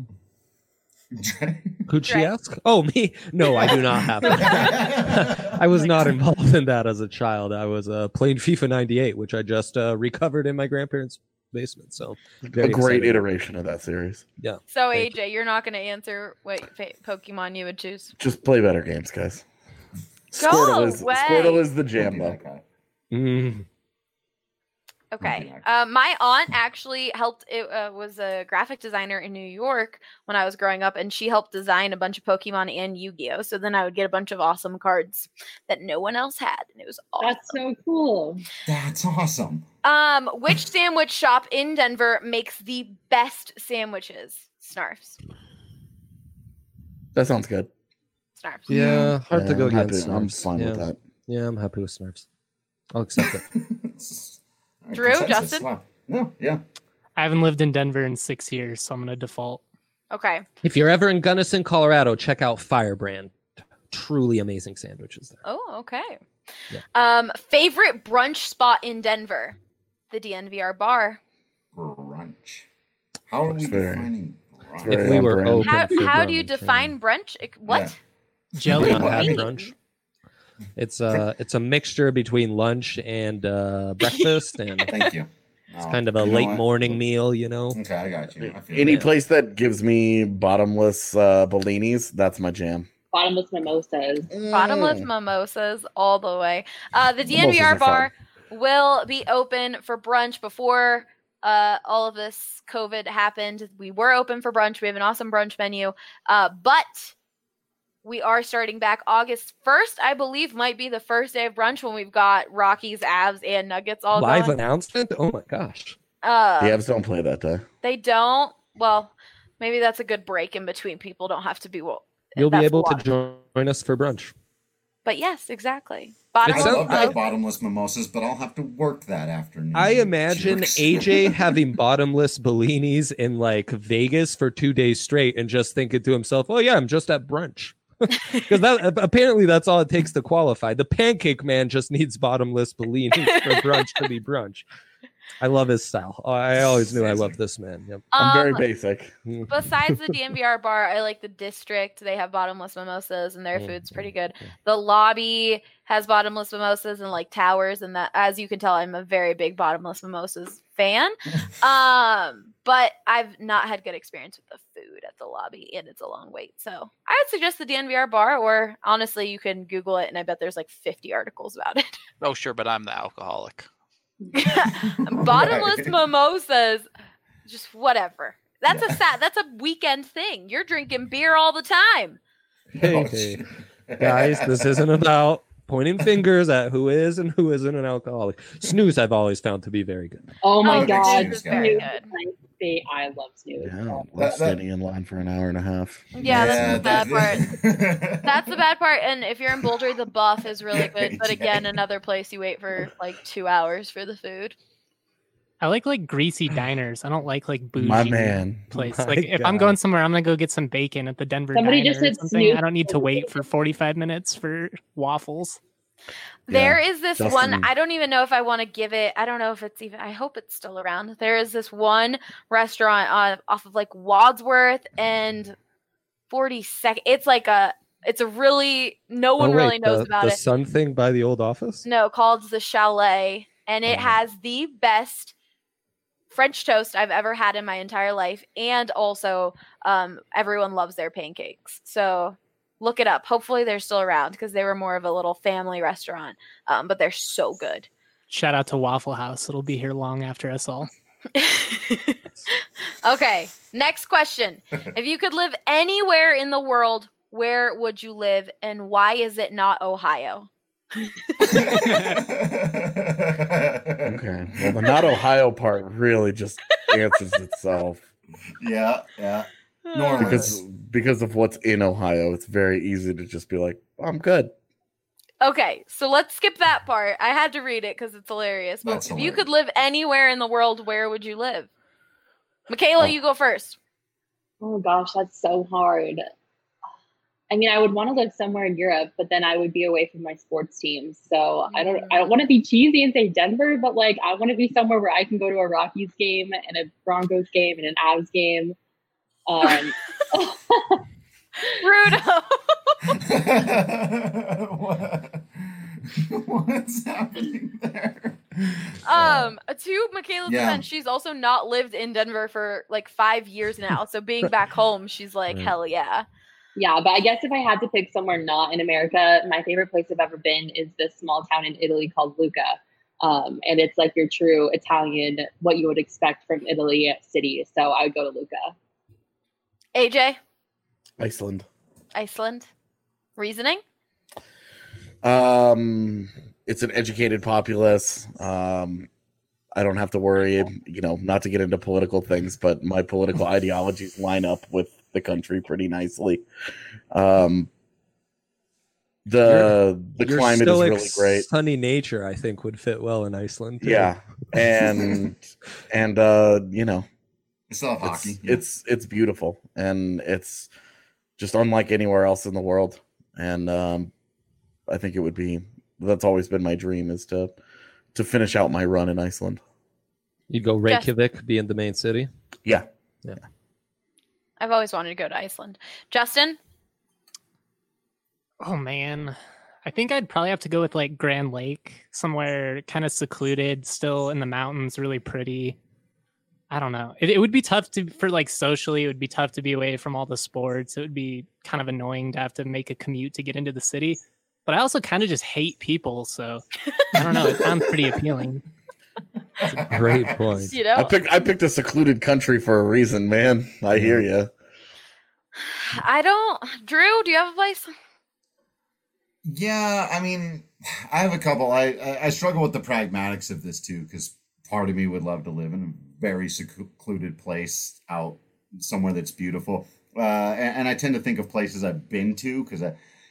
Could she Right. ask? Oh, me? No, I do not have it. I was not involved in that as a child. I was uh, playing FIFA ninety-eight, which I just uh, recovered in my grandparents' basement. So very a great excited. iteration of that series. Yeah. So Thank A J, you're not going to answer what fa- Pokemon you would choose. Just play better games, guys. Go Squirtle is away. Squirtle is the Don't jam be though. that guy. Mm. Okay. Okay. Uh, my aunt actually helped. It uh, was a graphic designer in New York when I was growing up, and she helped design a bunch of Pokemon and Yu-Gi-Oh. So then I would get a bunch of awesome cards that no one else had, and it was awesome. That's so cool. That's awesome. Um, which sandwich shop in Denver makes the best sandwiches? Snarfs. That sounds good. Snarfs. Yeah, hard Yeah, to go I'm happy- against. I'm Snarfs. fine yeah. with that. Yeah, I'm happy with Snarfs. I'll accept it. All right, Drew, consensus. Justin? Wow. No, yeah. I haven't lived in Denver in six years, so I'm gonna default. Okay. If you're ever in Gunnison, Colorado, check out Firebrand. Truly amazing sandwiches there. Oh, okay. Yeah. Um, favorite brunch spot in Denver? The D N V R bar. Brunch. How are we That's very- defining brunch? very If we on were brand. open How, for how do you brunch, yeah. define brunch? It- What? Yeah. Jelly We don't have Wait. brunch. It's a it's a mixture between lunch and uh, breakfast, and it's Thank you. Oh, kind of a you know late what? morning meal. You know. Okay, I got you. I feel Any you. place that gives me bottomless uh, Bellinis, that's my jam. Bottomless mimosas. Bottomless Mm. mimosas all the way. Uh, the D N V R Mimosas are bar will be open for brunch before uh, all of this COVID happened. We were open for brunch. We have an awesome brunch menu. Uh, but we are starting back August first, I believe, might be the first day of brunch when we've got Rockies, Avs, and Nuggets all Live going. announcement. Oh my gosh. Uh, The Avs don't play that day. They don't. Well, maybe that's a good break in between. People don't have to be. Well, You'll be that's able a to lot. join us for brunch. But yes, exactly. I Bottomless. love to I- have bottomless mimosas, but I'll have to work that afternoon. I imagine Jerks. A J having bottomless Bellinis in like Vegas for two days straight and just thinking to himself, "Oh yeah, I'm just at brunch." Because that apparently that's all it takes to qualify. The Pancake Man just needs bottomless Bellinis for brunch to be brunch. I love his style. I always knew I loved this man. Yep. I'm very Um, basic. Besides the D N V R bar, I like the District. They have bottomless mimosas, and their Mm, food's pretty good. The Lobby has bottomless mimosas and like towers, and that, as you can tell, I'm a very big bottomless mimosas fan. um, but I've not had good experience with the food at the Lobby, and it's a long wait. So I would suggest the D N V R bar, or honestly, you can Google it, and I bet there's like fifty articles about it. Oh, sure, but I'm the alcoholic. Bottomless Right. mimosas, just whatever. That's a sad. That's a weekend thing. You're drinking beer all the time. Hey, Oh, hey. shit. Guys, this isn't about pointing fingers at who is and who isn't an alcoholic. Snooze, I've always found to be very good. Oh my Oh, god, Snooze is very Snooze good. is my fa- I love Snooze. Yeah, That- we're that- standing in line for an hour and a half. Yeah, that's the bad part. part. That's the bad part. And if you're in Boulder, the Buff is really good. But Yeah. again, another place you wait for like two hours for the food. I like like greasy diners. I don't like like bougie My man. place. My Like if I'm God. going somewhere, I'm gonna go get some bacon at the Denver Somebody Diner just or said something. Snoop I don't need to was wait bacon. for forty-five minutes for waffles. There is this Justin. one. I don't even know if I want to give it. I don't know if it's even. I hope it's still around. There is this one restaurant uh, off of like Wadsworth and forty-second. It's like a. It's a really. No one Oh, wait, really knows the, about the it. sun thing by the old office? No, called the Chalet, and it Oh. has the best French toast I've ever had in my entire life, and also um, everyone loves their pancakes. So look it up. Hopefully they're still around because they were more of a little family restaurant, um, but they're so good. Shout out to Waffle House. It'll be here long after us all. Okay, next question. If you could live anywhere in the world, where would you live, and why is it not Ohio? Okay. Well, the not Ohio part really just answers itself Yeah, yeah. Normally. because because of what's in Ohio. It's very easy to just be like, I'm good. Okay, so let's skip that part. I had to read it because it's hilarious. But That's if you hilarious. could live anywhere in the world, where would you live? Michaela, Oh. you go first. Oh gosh, that's so hard. I mean, I would want to live somewhere in Europe, but then I would be away from my sports teams. So I don't I don't want to be cheesy and say Denver, but like I want to be somewhere where I can go to a Rockies game and a Broncos game and an Avs game. Um, Rudo. What- What's happening there? Um, to Michaela's Yeah. defense, she's also not lived in Denver for like five years now. So being back home, she's like, Right. hell yeah. yeah, but I guess if I had to pick somewhere not in America, my favorite place I've ever been is this small town in Italy called Lucca. Um, and it's like your true Italian, what you would expect from Italy city. So I would go to Lucca. A J, Iceland. Iceland. Reasoning? Um, it's an educated populace. Um, I don't have to worry, you know, not to get into political things, but my political ideologies line up with the country pretty nicely. Um, the the Your climate is stoic, really great. sunny nature, I think, would fit well in Iceland. too. Yeah, and and uh, you know, We still have it's, hockey. it's it's beautiful and it's just unlike anywhere else in the world. And um, I think it would be that's always been my dream is to to finish out my run in Iceland. You'd go Reykjavik, being the main city. Yeah. Yeah. I've always wanted to go to Iceland. Justin? Oh man. I think I'd probably have to go with like Grand Lake, somewhere kind of secluded, still in the mountains, really pretty. I don't know. It, it would be tough to for like socially, it would be tough to be away from all the sports. It would be kind of annoying to have to make a commute to get into the city. But I also kind of just hate people, so I don't know. It sounds pretty appealing. Great point. You know, I picked I picked a secluded country for a reason, man. I hear you. I don't. Drew, do you have a place? Yeah, I mean, I have a couple. I I, I struggle with the pragmatics of this too, because part of me would love to live in a very secluded place out somewhere that's beautiful. Uh, and, and I tend to think of places I've been to because I,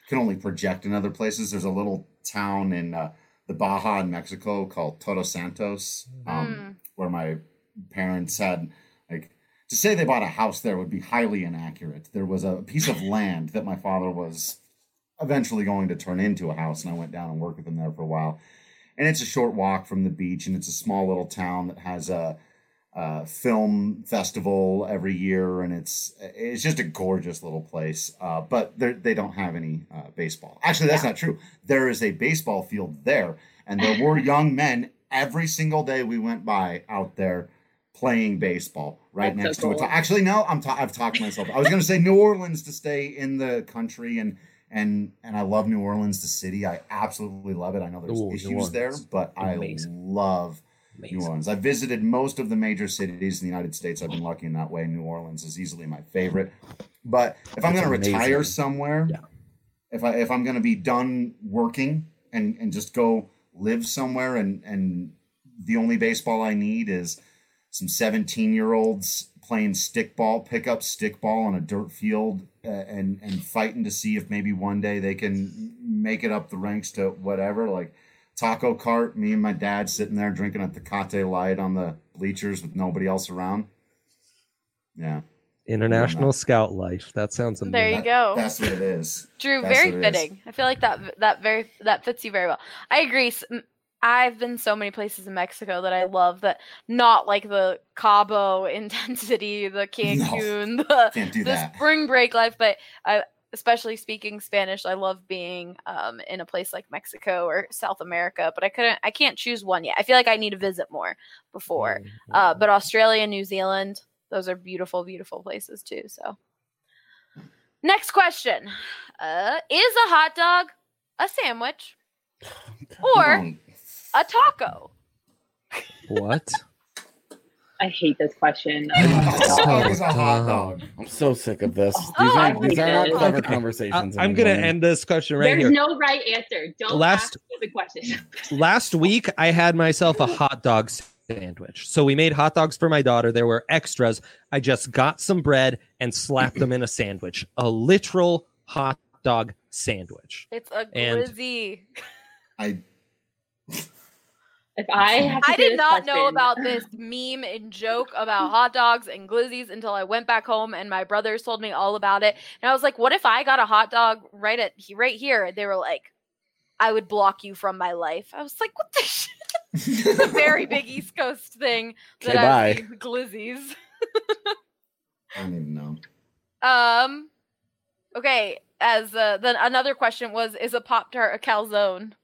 can only project in other places. There's a little town in uh, the Baja in Mexico called Todos Santos, um, Mm. where my parents had, like, to say they bought a house there would be highly inaccurate. There was a piece of land that my father was eventually going to turn into a house, and I went down and worked with him there for a while. And it's a short walk from the beach, and it's a small little town that has a, a film festival every year, and it's it's just a gorgeous little place. Uh, but they don't have any uh, baseball. Actually, that's not true. There is a baseball field there, and there were young men every single day we went by out there playing baseball right That's next so to cool. it. Actually, no, I'm ta- I've talked myself. I was going to say New Orleans to stay in the country, and and and I love New Orleans, the city. I absolutely love it. I know there's Ooh, New issues there, Orleans. but I Amazing. love Amazing. New Orleans. I visited most of the major cities in the United States. I've been lucky in that way. New Orleans is easily my favorite. But if I'm That's going to retire amazing. somewhere, Yeah. if I if I'm going to be done working and and just go live somewhere, and and the only baseball I need is some seventeen year olds playing stickball, pick up stickball on a dirt field, uh, and and fighting to see if maybe one day they can make it up the ranks to whatever, like taco cart, me and my dad sitting there drinking a Tecate Light on the bleachers with nobody else around. Yeah. International Scout life. That sounds amazing. There you That- go. That's what it is. Drew, That's very what it is. fitting. I feel like that that very that fits you very well. I agree. S- m- I've been so many places in Mexico that I love that, not like the Cabo intensity, the Cancun, the, Can't do the that. spring break life, but I, especially speaking Spanish, I love being um, in a place like Mexico or South America, but I couldn't, I can't choose one yet. I feel like I need to visit more before. Uh, but Australia and New Zealand, those are beautiful, beautiful places too. So, next question: uh, is a hot dog a sandwich or Um, a taco? What? I hate this question. a hot dog is a hot dumb. dog. I'm so sick of this. These Oh, aren't, I these hate are it. not clever Okay. conversations. I, am gonna anymore. end this question right There's here. no right answer. Don't Last- ask the question. Last week, I had myself a hot dog sandwich. So we made hot dogs for my daughter. There were extras. I just got some bread and slapped them in a sandwich. A literal hot dog sandwich. It's a And- glizzy. I If I have to I say did this not know question- about this meme and joke about hot dogs and glizzies until I went back home and my brothers told me all about it. And I was like, what if I got a hot dog right at right here? And they were like, I would block you from my life. I was like, what the shit? It's a very big East Coast thing that Okay, I've bye. seen glizzies. I don't even know. Um okay, as uh, then another question was, is a Pop-Tart a calzone?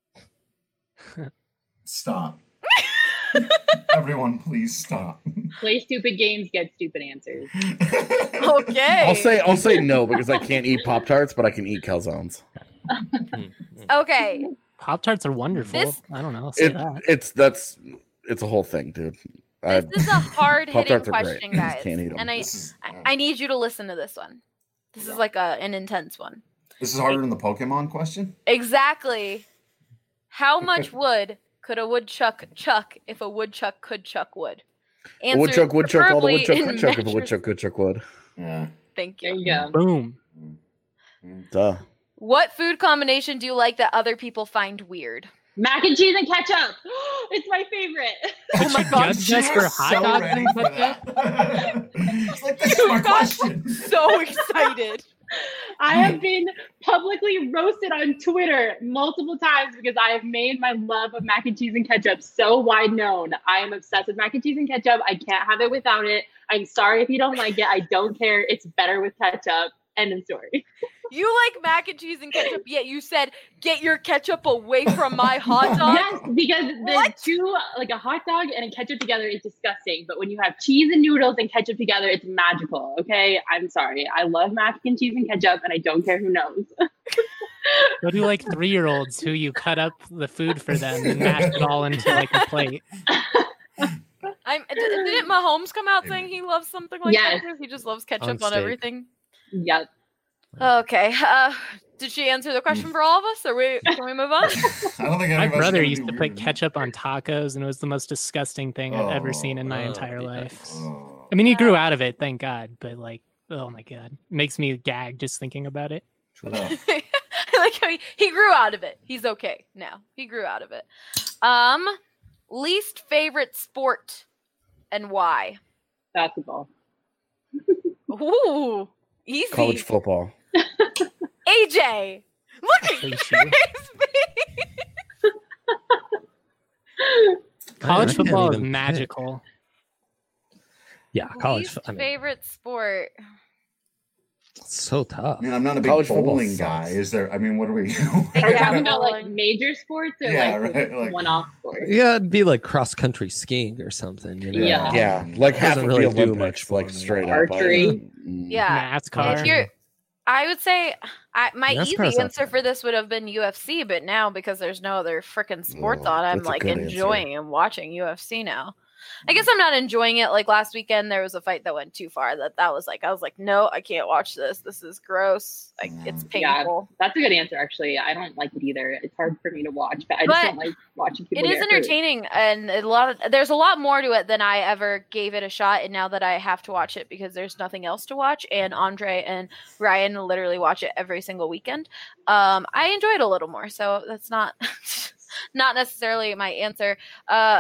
Stop. Everyone, please stop. Play stupid games, get stupid answers. Okay. I'll say I'll say no because I can't eat Pop Tarts, but I can eat calzones. Okay. Pop Tarts are wonderful. This- I don't know. I'll say It, that. it's that's it's a whole thing, dude. I, This is a hard hitting Pop-Tarts are great. question, I just guys. can't eat 'em. And I, This is, I uh, I need you to listen to this one. This is like a an intense one. this is harder than the Pokemon question. Exactly. How much wood could a woodchuck chuck if a woodchuck could chuck wood? a Answer woodchuck, woodchuck, all the preferably woodchuck, in woodchuck, if a measure- woodchuck, woodchuck would. Yeah. Thank There you. you go. Boom. Duh. What food combination do you like that other people find weird? Mac and cheese and ketchup. It's my favorite. Oh my you god, judge us for hot so dogs ready and for ketchup? that. It's like, this is my You got question. so excited. I have been publicly roasted on Twitter multiple times because I have made my love of mac and cheese and ketchup so wide known. I am obsessed with mac and cheese and ketchup. I can't have it without it. I'm sorry if you don't like it. I don't care. It's better with ketchup. End of story. You like mac and cheese and ketchup, yet you said, get your ketchup away from my hot dog? Yes, because the What? two, like a hot dog and a ketchup together is disgusting. But when you have cheese and noodles and ketchup together, it's magical. Okay, I'm sorry. I love mac and cheese and ketchup, and I don't care who knows. Go to like three year olds who you cut up the food for them and mash it all into like a plate. I'm, d- didn't Mahomes come out saying he loves something like Yes. that? He just loves ketchup On on, steak. everything. Yep. Okay. Uh, did she answer the question for all of us? Or we can we move on? I don't think My anybody's brother gonna used do to put weird. ketchup on tacos, and it was the most disgusting thing I've ever seen in my Oh, entire yeah. life. Oh. I mean, he grew out of it, thank God, but like, oh my God, makes me gag just thinking about it. Oh. like how he, he grew out of it. He's okay now. He grew out of it. Um, least favorite sport and why? Basketball. Ooh, easy. College football. A J, look at his face. College I can't football is even pick. magical. Yeah, college. Least I mean, favorite sport. it's so tough. I mean, I'm not a big College football bowling sucks. guy. Is there? I mean, what are we? Are you talking about like bowling. major sports or Yeah, like, right, like- one-off sports? Yeah, it'd be like cross country skiing or something. You know? Yeah. Yeah, like half Doesn't of really the do Olympics, much for like me. straight up. Archery. Mm. Yeah. NASCAR. If you're, I would say I, my NASCAR's easy not answer bad. for this would have been U F C, but now because there's no other freaking sports Oh, on, I'm that's a like good enjoying and watching U F C now. I guess I'm not enjoying it. Like last weekend, there was a fight that went too far. That that was like I was like, no, I can't watch this. This is gross. Like it's Yeah, painful. that's a good answer. Actually, I don't like it either. It's hard for me to watch, but I just But don't like watching people. It is get hurt. entertaining, and a lot of there's a lot more to it than I ever gave it a shot. And now that I have to watch it because there's nothing else to watch, and Andre and Ryan literally watch it every single weekend, um, I enjoy it a little more. So that's not not necessarily my answer. Uh,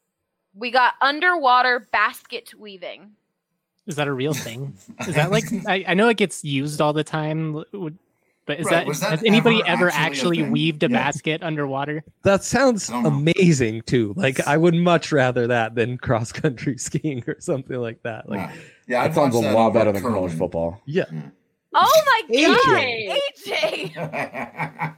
we got underwater basket weaving. Is that a real thing? Is that like I, I know it gets used all the time, but is Right, that, was that has anybody ever ever actually a actually thing? weaved a Yeah. basket underwater? That sounds I don't know. amazing too. Like I would much rather that than cross country skiing or something like that. Like Yeah, yeah That I'd sounds a watch that lot over better than college curling. football. yeah, Oh my A J. god, A J!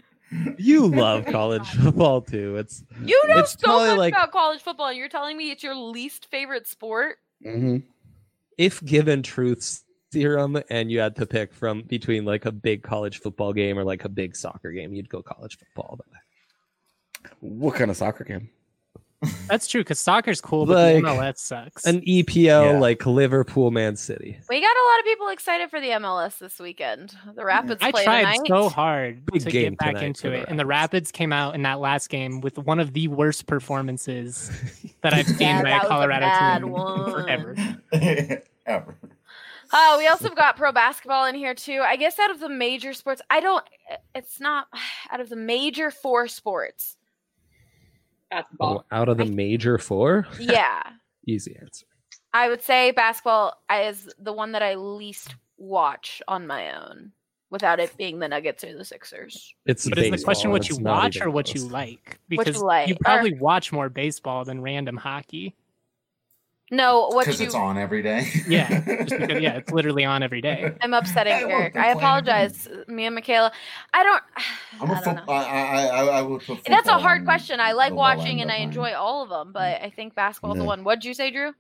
you love college football too. It's You know It's so probably much like- about college football, and you're telling me it's your least favorite sport? Mm-hmm. if given truth serum and you had to pick from between like a big college football game or like a big soccer game, you'd go college football. But What kind of soccer game? That's true because soccer's cool, but Like, the M L S sucks. an E P L Yeah. like Liverpool, Man City. We got a lot of people excited for the M L S this weekend. The Rapids I play tried tonight. so hard Big to game get back tonight into for the it, and the Rapids. Rapids came out in that last game with one of the worst performances that I've seen Yeah, by that a was a Colorado bad team one. forever. Ever. Oh, we also got pro basketball in here too. I guess out of the major sports, I don't. It's not out of the major four sports. Basketball. Oh, out of the major four, Yeah, easy answer. I would say basketball is the one that I least watch on my own, without it being the Nuggets or the Sixers. It's But is the baseball, question and what you it's not watch even or what you close. like? What you Because like, you or- probably watch more baseball than random hockey. No, what Because you? it's on every day. Yeah, just because, yeah, it's literally on every day. I'm upsetting Hey, look, Eric. they're I playing apologize, me and Michaela. I don't. I'm a I don't foot, know. I, I, I, I would put That's a football hard on question. I like the low watching end and of I mine. enjoy all of them, but I think basketball's the Yeah. one. What'd you say, Drew?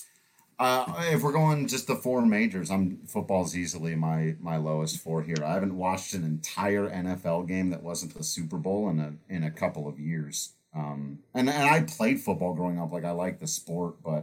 Uh, if we're going just the four majors, I'm football's easily my my lowest four here. I haven't watched an entire N F L game that wasn't the Super Bowl in a in a couple of years. Um, and and I played football growing up, like I like the sport, but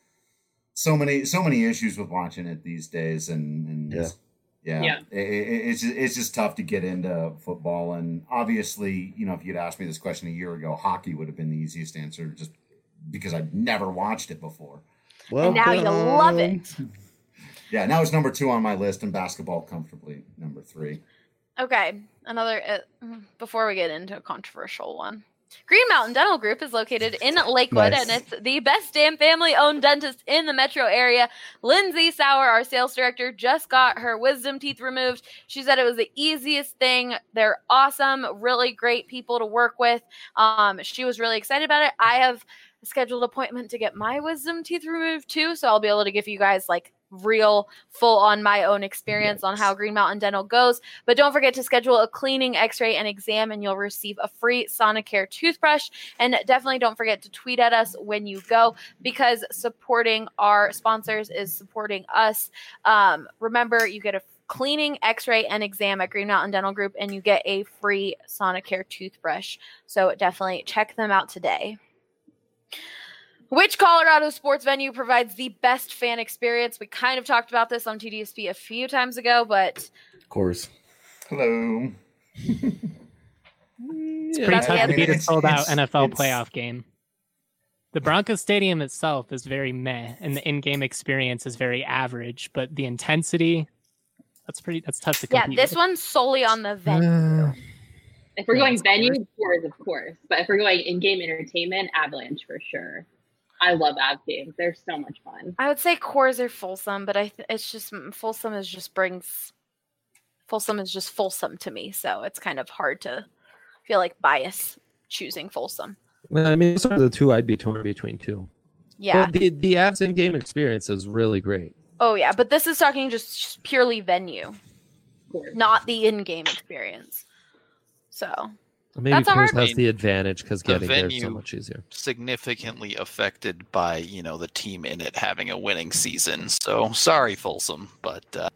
so many so many issues with watching it these days, and, and Yeah. yeah, Yeah. It, it, it's just, it's just tough to get into football. And obviously, you know, if you'd asked me this question a year ago, hockey would have been the easiest answer, just because I'd never watched it before. Well, Now you love it. Yeah, now it's number two on my list, and basketball comfortably number three. Okay, another. Uh, before we get into a controversial one, Green Mountain Dental Group is located in Lakewood, Nice. and it's the best damn family-owned dentist in the metro area. Lindsay Sauer, our sales director, just got her wisdom teeth removed. She said it was the easiest thing. They're awesome, really great people to work with. Um, she was really excited about it. I have a scheduled appointment to get my wisdom teeth removed too, so I'll be able to give you guys like real full on my own experience on how Green Mountain Dental goes. But don't forget to schedule a cleaning, x-ray, and exam, and you'll receive a free Sonicare toothbrush. And definitely don't forget to tweet at us when you go, because supporting our sponsors is supporting us. Um, remember, you get a cleaning, x-ray, and exam at Green Mountain Dental Group, and you get a free Sonicare toothbrush. So definitely check them out today. Which Colorado sports venue provides the best fan experience? We kind of talked about this on T D S P a few times ago, but Of course. Hello. It's Yeah. pretty That's tough the to beat a It's- sold out it's- N F L it's- playoff game. The Broncos Stadium itself is very meh, and the in-game experience is very average. But the intensity, That's pretty. That's tough to Yeah, compete. this with. one's solely on the venue. If we're Yeah, going it's venue, cool. Coors, of course. But if we're going in-game entertainment, Avalanche for sure. I love Av games. They're so much fun. I would say Coors or Folsom, but I th- it's just Folsom is just brings Folsom is just Folsom to me, so it's kind of hard to feel like bias choosing Folsom. Well, I mean, those are the two I'd be torn between too. Yeah. But the the Avs in-game experience is really great. Oh yeah, but this is talking just purely venue, not the in-game experience. So Maybe that's a Coors hard has the advantage because The getting there is so venue much easier. significantly affected by, you know, the team in it having a winning season. So sorry, Folsom, but uh,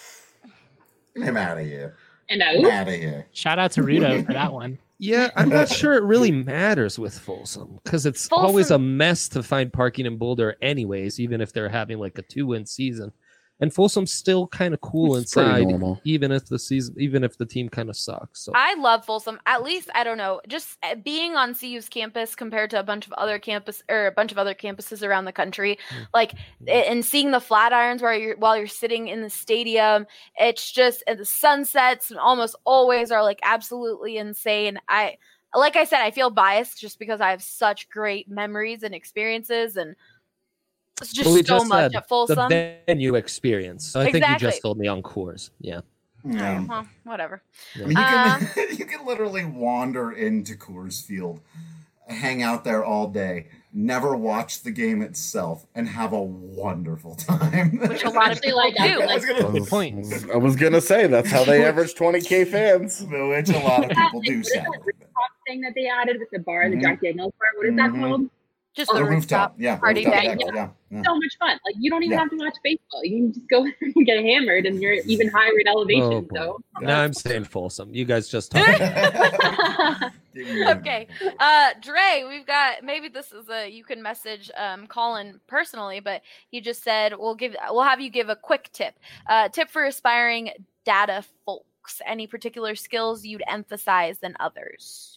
I'm out of here. And I'm I, out of here. Shout out to Rudo for that one. Yeah, I'm not sure it really matters with Folsom because it's always a mess to find parking in Boulder, anyways. Even if they're having like a two-win season, and Folsom's still kind of cool It's pretty inside, normal. even if the season, even if the team kind of sucks. So I love Folsom. At least I don't know, just uh, being on C U's campus compared to a bunch of other campus or a bunch of other campuses around the country, like a- and seeing the Flatirons while you're while you're sitting in the stadium, it's just and the sunsets almost always are like absolutely insane. I like I said, I feel biased just because I have such great memories and experiences and. It's just Well, we so just much said at Folsom. the venue experience. So I think you Exactly. just told me on Coors. Yeah. Yeah. Well, whatever. I mean, you Uh, can you can literally wander into Coors Field, hang out there all day, never watch the game itself, and have a wonderful time. Which a lot of people like do. that. I was gonna, Good point. I was gonna say that's how they average twenty K fans. which a lot of people do. What is that Sadly. rooftop thing that they added with the bar, the Mhm. Jack Daniels bar? What is that Mhm. called? Just Oh, the The rooftop, yeah, party rooftop deck. deck, yeah, yeah. So much fun. Like you don't even Yeah. have to watch baseball. You can just go there and get hammered, and you're even higher in elevation. Oh, boy. so Now I'm saying Folsom. You guys just talked. Okay. Uh Dre, we've got maybe this is a you can message um Colin personally, but he just said we'll give we'll have you give a quick tip. Uh tip for aspiring data folks. Any particular skills you'd emphasize than others?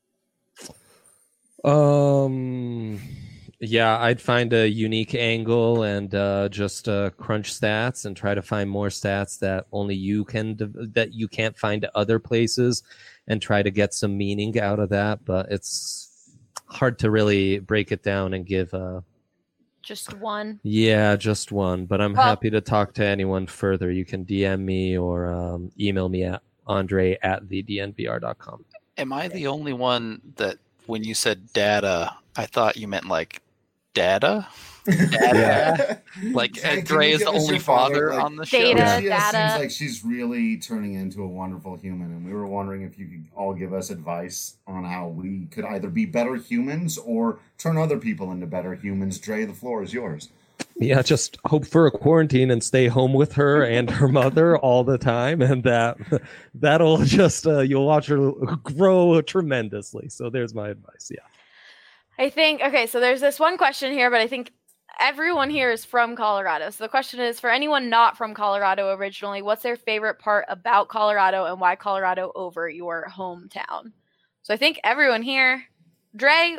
Um, yeah, I'd find a unique angle and uh, just uh, crunch stats and try to find more stats that only you can that you can't find at other places, and try to get some meaning out of that. But it's hard to really break it down and give a Just one. yeah, just one. But I'm Well- happy to talk to anyone further. You can D M me or um, email me at Andre at the D N V R dot com. am I the only one that when you said data, I thought you meant like data? Data? Like Hey, Ed can Dre you is give the us only your father, father like- on the show. Data. Yeah, she data. seems like she's really turning into a wonderful human, and we were wondering if you could all give us advice on how we could either be better humans or turn other people into better humans. Dre, the floor is yours. Yeah, just hope for a quarantine and stay home with her and her mother all the time, and that that'll just uh, you'll watch her grow tremendously. So there's my advice. Yeah. I think okay, so there's this one question here, but I think everyone here is from Colorado. So the question is for anyone not from Colorado originally, what's their favorite part about Colorado and why Colorado over your hometown? So I think everyone here, Dre.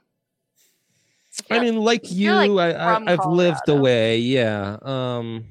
I mean, like you, feel like I, from I, I've lived Colorado. away. Yeah. Um.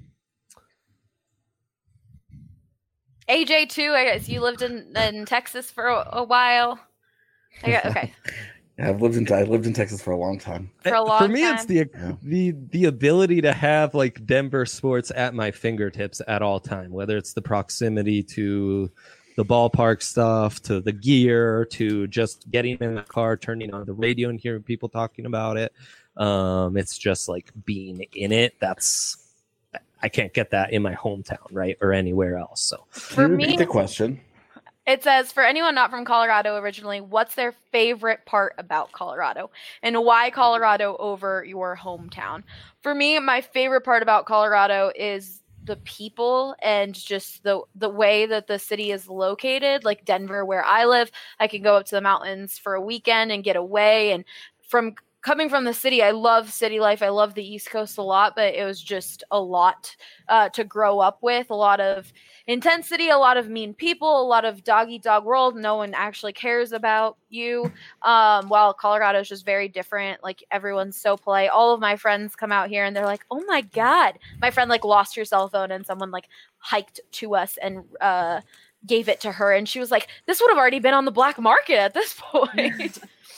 A J too. I guess you lived in, in Texas for a, a while. I got, okay, Yeah, I've lived in I lived in Texas for a long time. for a long For me, time. it's the Yeah. the the ability to have like Denver sports at my fingertips at all time. Whether it's the proximity to the ballpark stuff, to the gear, to just getting in the car, turning on the radio and hearing people talking about it. Um, it's just like being in it. That's I can't get that in my hometown, right, or anywhere else. So For Can you me, repeat the question? it says for anyone not from Colorado originally, what's their favorite part about Colorado and why Colorado over your hometown? For me, my favorite part about Colorado is the people and just the the way that the city is located. Like Denver, where I live, I can go up to the mountains for a weekend and get away. And from coming from the city, I love city life. I love the East Coast a lot, but it was just a lot uh, to grow up with. A lot of intensity, a lot of mean people, a lot of dog eat dog world. No one actually cares about you. Um, while Colorado is just very different. Like everyone's so polite. All of my friends come out here and they're like, "Oh my God!" My friend like lost her cell phone and someone like hiked to us and uh, gave it to her, and she was like, "This would have already been on the black market at this point."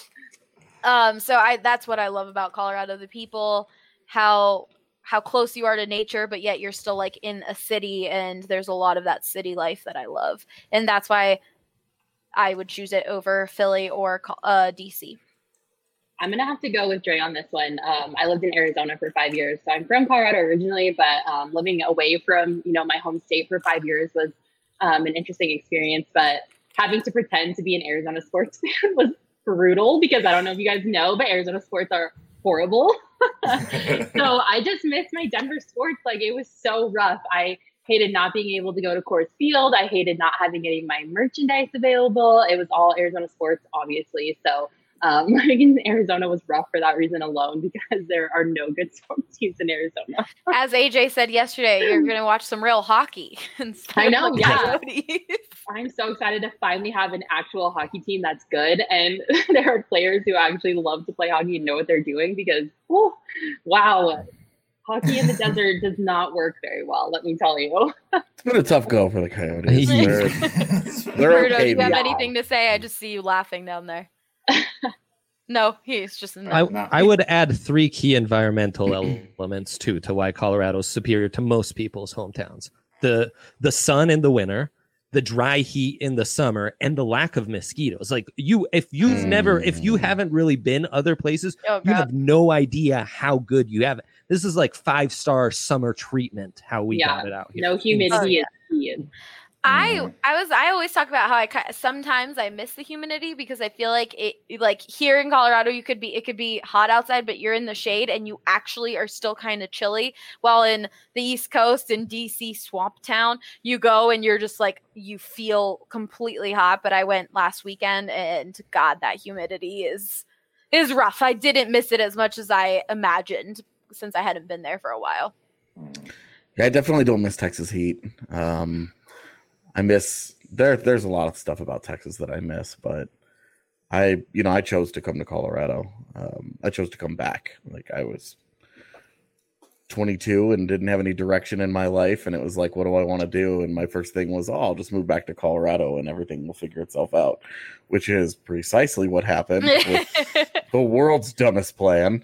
Um, so I, that's what I love about Colorado, the people, how, how close you are to nature, but yet you're still like in a city, and there's a lot of that city life that I love. And that's why I would choose it over Philly or uh, D C. I'm going to have to go with Dre on this one. Um, I lived in Arizona for five years. So I'm from Colorado originally, but um, living away from, you know, my home state for five years was um, an interesting experience. But having to pretend to be an Arizona sports fan was brutal, because I don't know if you guys know, but Arizona sports are horrible. So I just missed my Denver sports. Like, it was so rough. I hated not being able to go to Coors Field. I hated not having any of my merchandise available. It was all Arizona sports, obviously. So um, living in Arizona was rough for that reason alone, because there are no good sports teams in Arizona. As A J said yesterday, you're going to watch some real hockey. I know, like yeah. Coyotes. I'm so excited to finally have an actual hockey team that's good. And there are players who actually love to play hockey and know what they're doing, because, oh, wow, hockey in the desert does not work very well, let me tell you. It's been a tough go for the Coyotes. They're, they're Bruno, okay. do you have now. anything to say? I just see you laughing down there. No, he's just no. I, I would add three key environmental elements too to why Colorado is superior to most people's hometowns: the the sun in the winter, the dry heat in the summer, and the lack of mosquitoes. Like, you, if you've mm. never, if you haven't really been other places, oh, you have no idea how good you have it. This is like five star summer treatment. How we yeah, got it out here. No humidity is key. I I was I always talk about how I ki- sometimes I miss the humidity, because I feel like it like here in Colorado you could be it could be hot outside, but you're in the shade and you actually are still kind of chilly. While in the East Coast, in D C Swamp Town, you go and you're just like, you feel completely hot. But I went last weekend, and God, that humidity is is rough. I didn't miss it as much as I imagined, since I hadn't been there for a while. Yeah, I definitely don't miss Texas heat. Um, I miss there. There's a lot of stuff about Texas that I miss, but I, you know, I chose to come to Colorado. Um, I chose to come back. Like, I was twenty-two and didn't have any direction in my life, and it was like, what do I want to do? And my first thing was, oh, I'll just move back to Colorado, and everything will figure itself out, which is precisely what happened with the world's dumbest plan.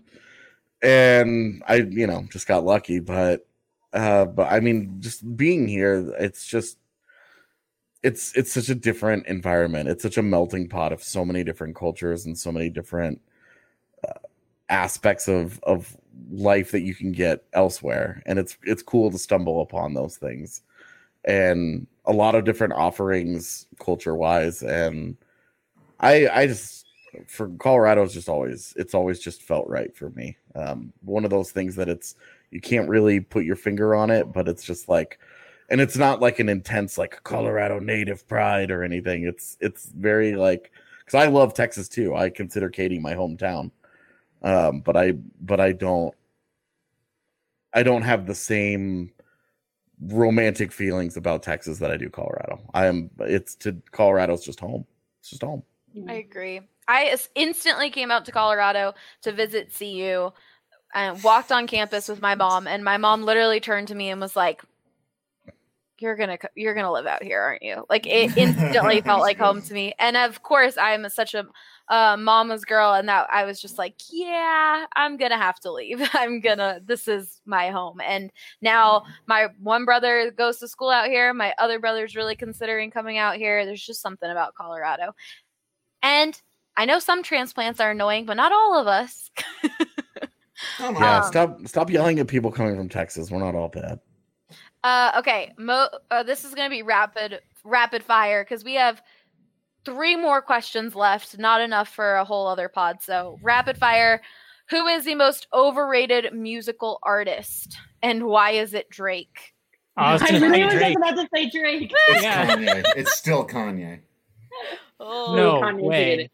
And I, you know, just got lucky. But, uh, but I mean, just being here, it's just. It's it's such a different environment. It's such a melting pot of so many different cultures and so many different uh, aspects of of life that you can get elsewhere. And it's it's cool to stumble upon those things, and a lot of different offerings culture wise. And I I just for Colorado is just always it's always just felt right for me. Um, one of those things that it's you can't really put your finger on it, but it's just like. And it's not like an intense like Colorado native pride or anything. It's it's very like, because I love Texas too. I consider Katy my hometown, um, but I but I don't I don't have the same romantic feelings about Texas that I do Colorado. I am it's to Colorado's just home. It's just home. I agree. I instantly came out to Colorado to visit C U and walked on campus with my mom, and my mom literally turned to me and was like, you're gonna you're gonna live out here, aren't you? Like, it instantly felt like home to me. And of course, I'm such a uh, mama's girl, and that I was just like, yeah, I'm gonna have to leave. I'm gonna. This is my home. And now my one brother goes to school out here. My other brother's really considering coming out here. There's just something about Colorado. And I know some transplants are annoying, but not all of us. Yeah, um, stop stop yelling at people coming from Texas. We're not all bad. Uh, okay, Mo, uh, this is going to be rapid rapid fire, because we have three more questions left. Not enough for a whole other pod. So rapid fire. Who is the most overrated musical artist, and why is it Drake? Oh, I was I gonna really say was Drake. about to say Drake. It's Yeah. Kanye. It's still Kanye. Oh, No Kanye's way. good.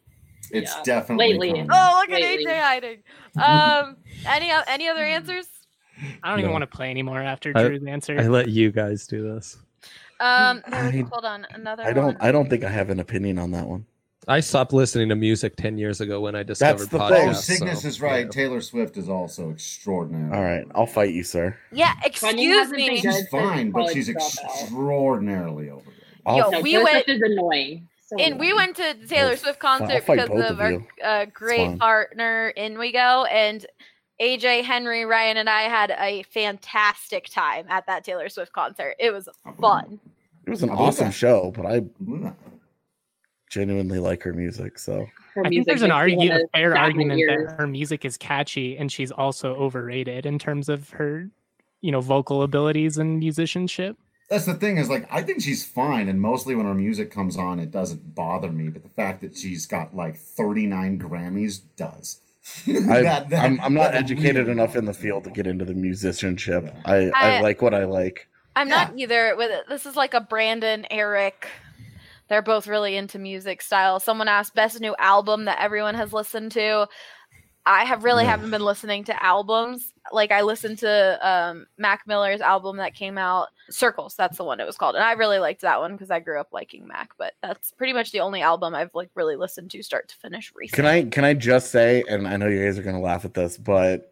It's Yeah. definitely Lately. coming. Oh, look at Lately. A J hiding. Um, any o- any other answers? I don't even No. want to play anymore after I- Drew's answer. I let you guys do this. Um, there was, I- hold on, another I don't. one. I don't think I have an opinion on that one. I stopped listening to music ten years ago when I discovered the thing. podcasts. Oh, Cygnus so, is right. yeah. Taylor Swift is also extraordinary. All right, I'll fight you, sir. Yeah, Kanye excuse hasn't been me. good. She's fine, but College she's dropout. extraordinarily overrated. I'll, Yo, No, we Taylor went- Swift is annoying. So And we annoying. went to the Taylor I'll- Swift I'll concert fight because both of of our you. uh, great fine. partner in We Go, and A J, Henry, Ryan, and I had a fantastic time at that Taylor Swift concert. It was fun. it was an I believe awesome that. show, but I Ooh. genuinely like her music. So Her I think music there's an makes me argu- wanna a fair snap my argument ears. that her music is catchy and she's also overrated in terms of her, you know, vocal abilities and musicianship. That's the thing is like I think she's fine, and mostly when her music comes on, it doesn't bother me. But the fact that she's got like thirty-nine Grammys does. I, That- that- I'm, I'm not that educated really enough in the bothers field to me. get into the musicianship. I, I, I- like what I like. I'm not either. With this is like a Brandon, Eric. They're both really into music style. Someone asked best new album that everyone has listened to. I have really Yeah. haven't been listening to albums. Like I listened to um, Mac Miller's album that came out, Circles. That's the one it was called, and I really liked that one because I grew up liking Mac. But that's pretty much the only album I've like really listened to start to finish recently. Can I can I just say, and I know you guys are gonna laugh at this, but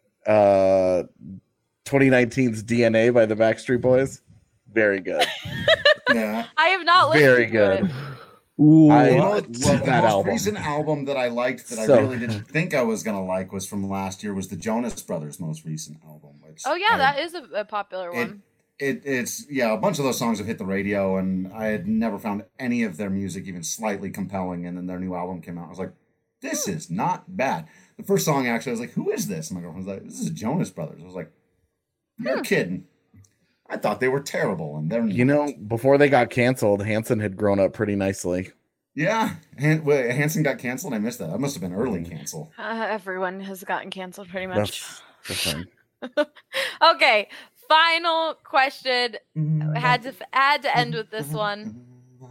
uh, twenty nineteen's D N A by the Backstreet Boys, very good, Yeah. I have not listened very to good. it. Ooh, I You know, love well, the that most album. recent album that I liked that So I really didn't think I was gonna like was from last year was the Jonas Brothers' most recent album. Which Oh yeah, I- that is a, a popular it, one. it it's yeah, a bunch of those songs have hit the radio, and I had never found any of their music even slightly compelling. And then their new album came out. I was like, this is not bad. The first song actually, I was like, who is this? And my girlfriend was like, this is Jonas Brothers. I was like, you're Hmm. kidding. I thought they were terrible, and they're You know, before they got canceled, Hanson had grown up pretty nicely. yeah. Han- wait, Hanson got canceled. I missed that. That must have been early cancel. Uh, everyone has gotten canceled pretty much. That's the thing. Okay, final question. Had to had to end with this one.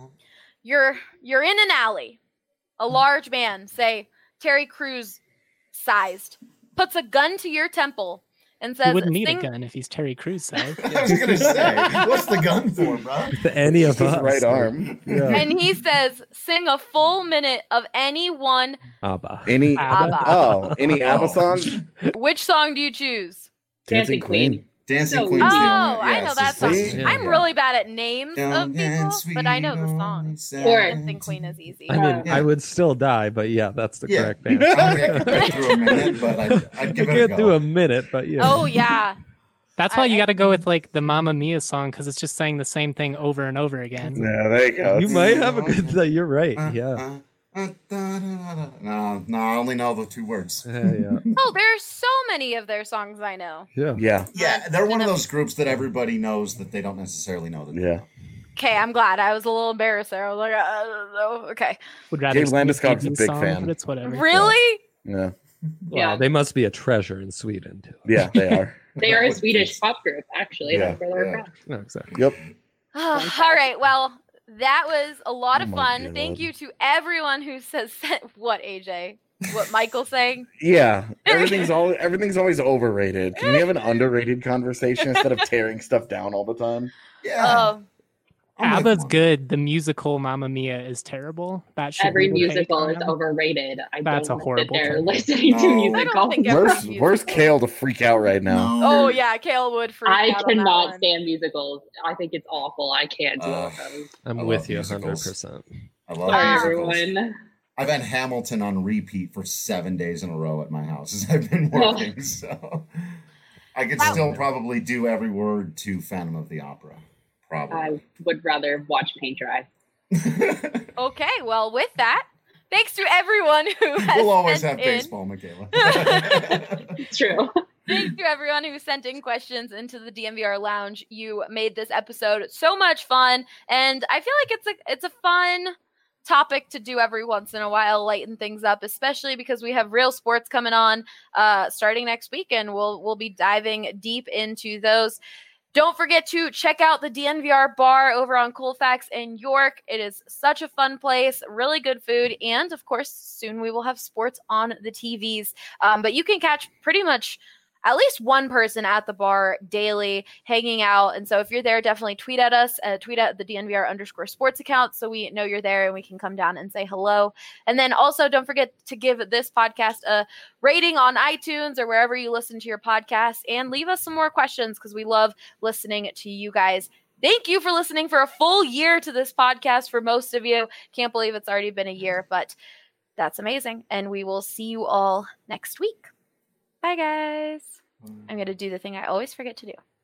You're you're in an alley. A large man, say Terry Crews sized, puts a gun to your temple and He says, wouldn't need "Sing-" a gun if he's Terry Crews size. I was gonna say, what's the gun for, bro? any of It's his us. right arm. Yeah. and he says, "Sing a full minute of any one. Abba. Any ABBA. oh, any ABBA Oh. song? Which song do you choose?" Dancing Queen. Dancing So Queen's Oh, the only- I yeah, know it's that just- song. See? Yeah. I'm really bad at names of Young and people, but I know the sweet, song. only Or- Dancing Queen is easy. I mean, Yeah. I would still die, but yeah, that's the Yeah. correct I mean, I answer. could get through a minute, but I'd, I'd give I it a can't go. do a minute, but yeah. Oh yeah. That's why I- you I- got to go with like the Mamma Mia song because it's just saying the same thing over and over again. Yeah, there you go. You might have a good. th- You're right. Uh, Yeah. uh, uh, da, da, da, da. No, no, I only know the two words. Yeah. Yeah. Oh, there's so many of their songs I know. Yeah. Yeah, Yeah, they're one of those groups that everybody knows that they don't necessarily know. That yeah. Okay, I'm glad. I was a little embarrassed there. I was like, I don't know. Okay. Would rather Jay sing a Landeskog's a Bee Gees big song, fan. but it's whatever. Really? Yeah, Yeah. Wow, they must be a treasure in Sweden too. yeah, they are. They are a Swedish pop group, actually. Yeah, That's where they're yeah. from. No, exactly. Yep. All right. Well, that was a lot of Oh my fun. God. Thank you to everyone who says what, A J? What Michael's saying? Yeah, everything's all everything's always overrated. Can we have an underrated conversation instead of tearing stuff down all the time? Yeah. Oh, I'm with ABBA's one. good. The musical Mamma Mia is terrible. That should Every be the musical is take. overrated. I That's don't a want to sit horrible there take. listening to No. musicals. I don't think every Where's musical- Where's Kale to freak out right now? Oh yeah, Kale would freak I out on that cannot one. stand musicals. I think it's awful. I can't deal Uh, with those. I'm I with love you musicals. one hundred percent. I love Sorry, musicals. everyone. I've had Hamilton on repeat for seven days in a row at my house as I've been working, so I could Wow. still probably do every word to Phantom of the Opera. Probably. I would rather watch paint dry. Okay, well, with that, thanks to everyone who has We'll always sent have in. baseball, Michaela. It's true. Thanks to everyone who sent in questions into the D M V R Lounge. You made this episode so much fun, and I feel like it's a it's a fun topic to do every once in a while, lighten things up, especially because we have real sports coming on uh, starting next week, and we'll we'll be diving deep into those. Don't forget to check out the D N V R bar over on Colfax in York. It is such a fun place, really good food, and of course, soon we will have sports on the T Vs. Um, but you can catch pretty much at least one person at the bar daily hanging out. And so if you're there, definitely tweet at us, uh, tweet at the D N V R underscore sports account so we know you're there and we can come down and say hello. And then also don't forget to give this podcast a rating on iTunes or wherever you listen to your podcast, and leave us some more questions because we love listening to you guys. Thank you for listening for a full year to this podcast for most of you. Can't believe it's already been a year, but that's amazing. And we will see you all next week. Bye, guys. I'm going to do the thing I always forget to do.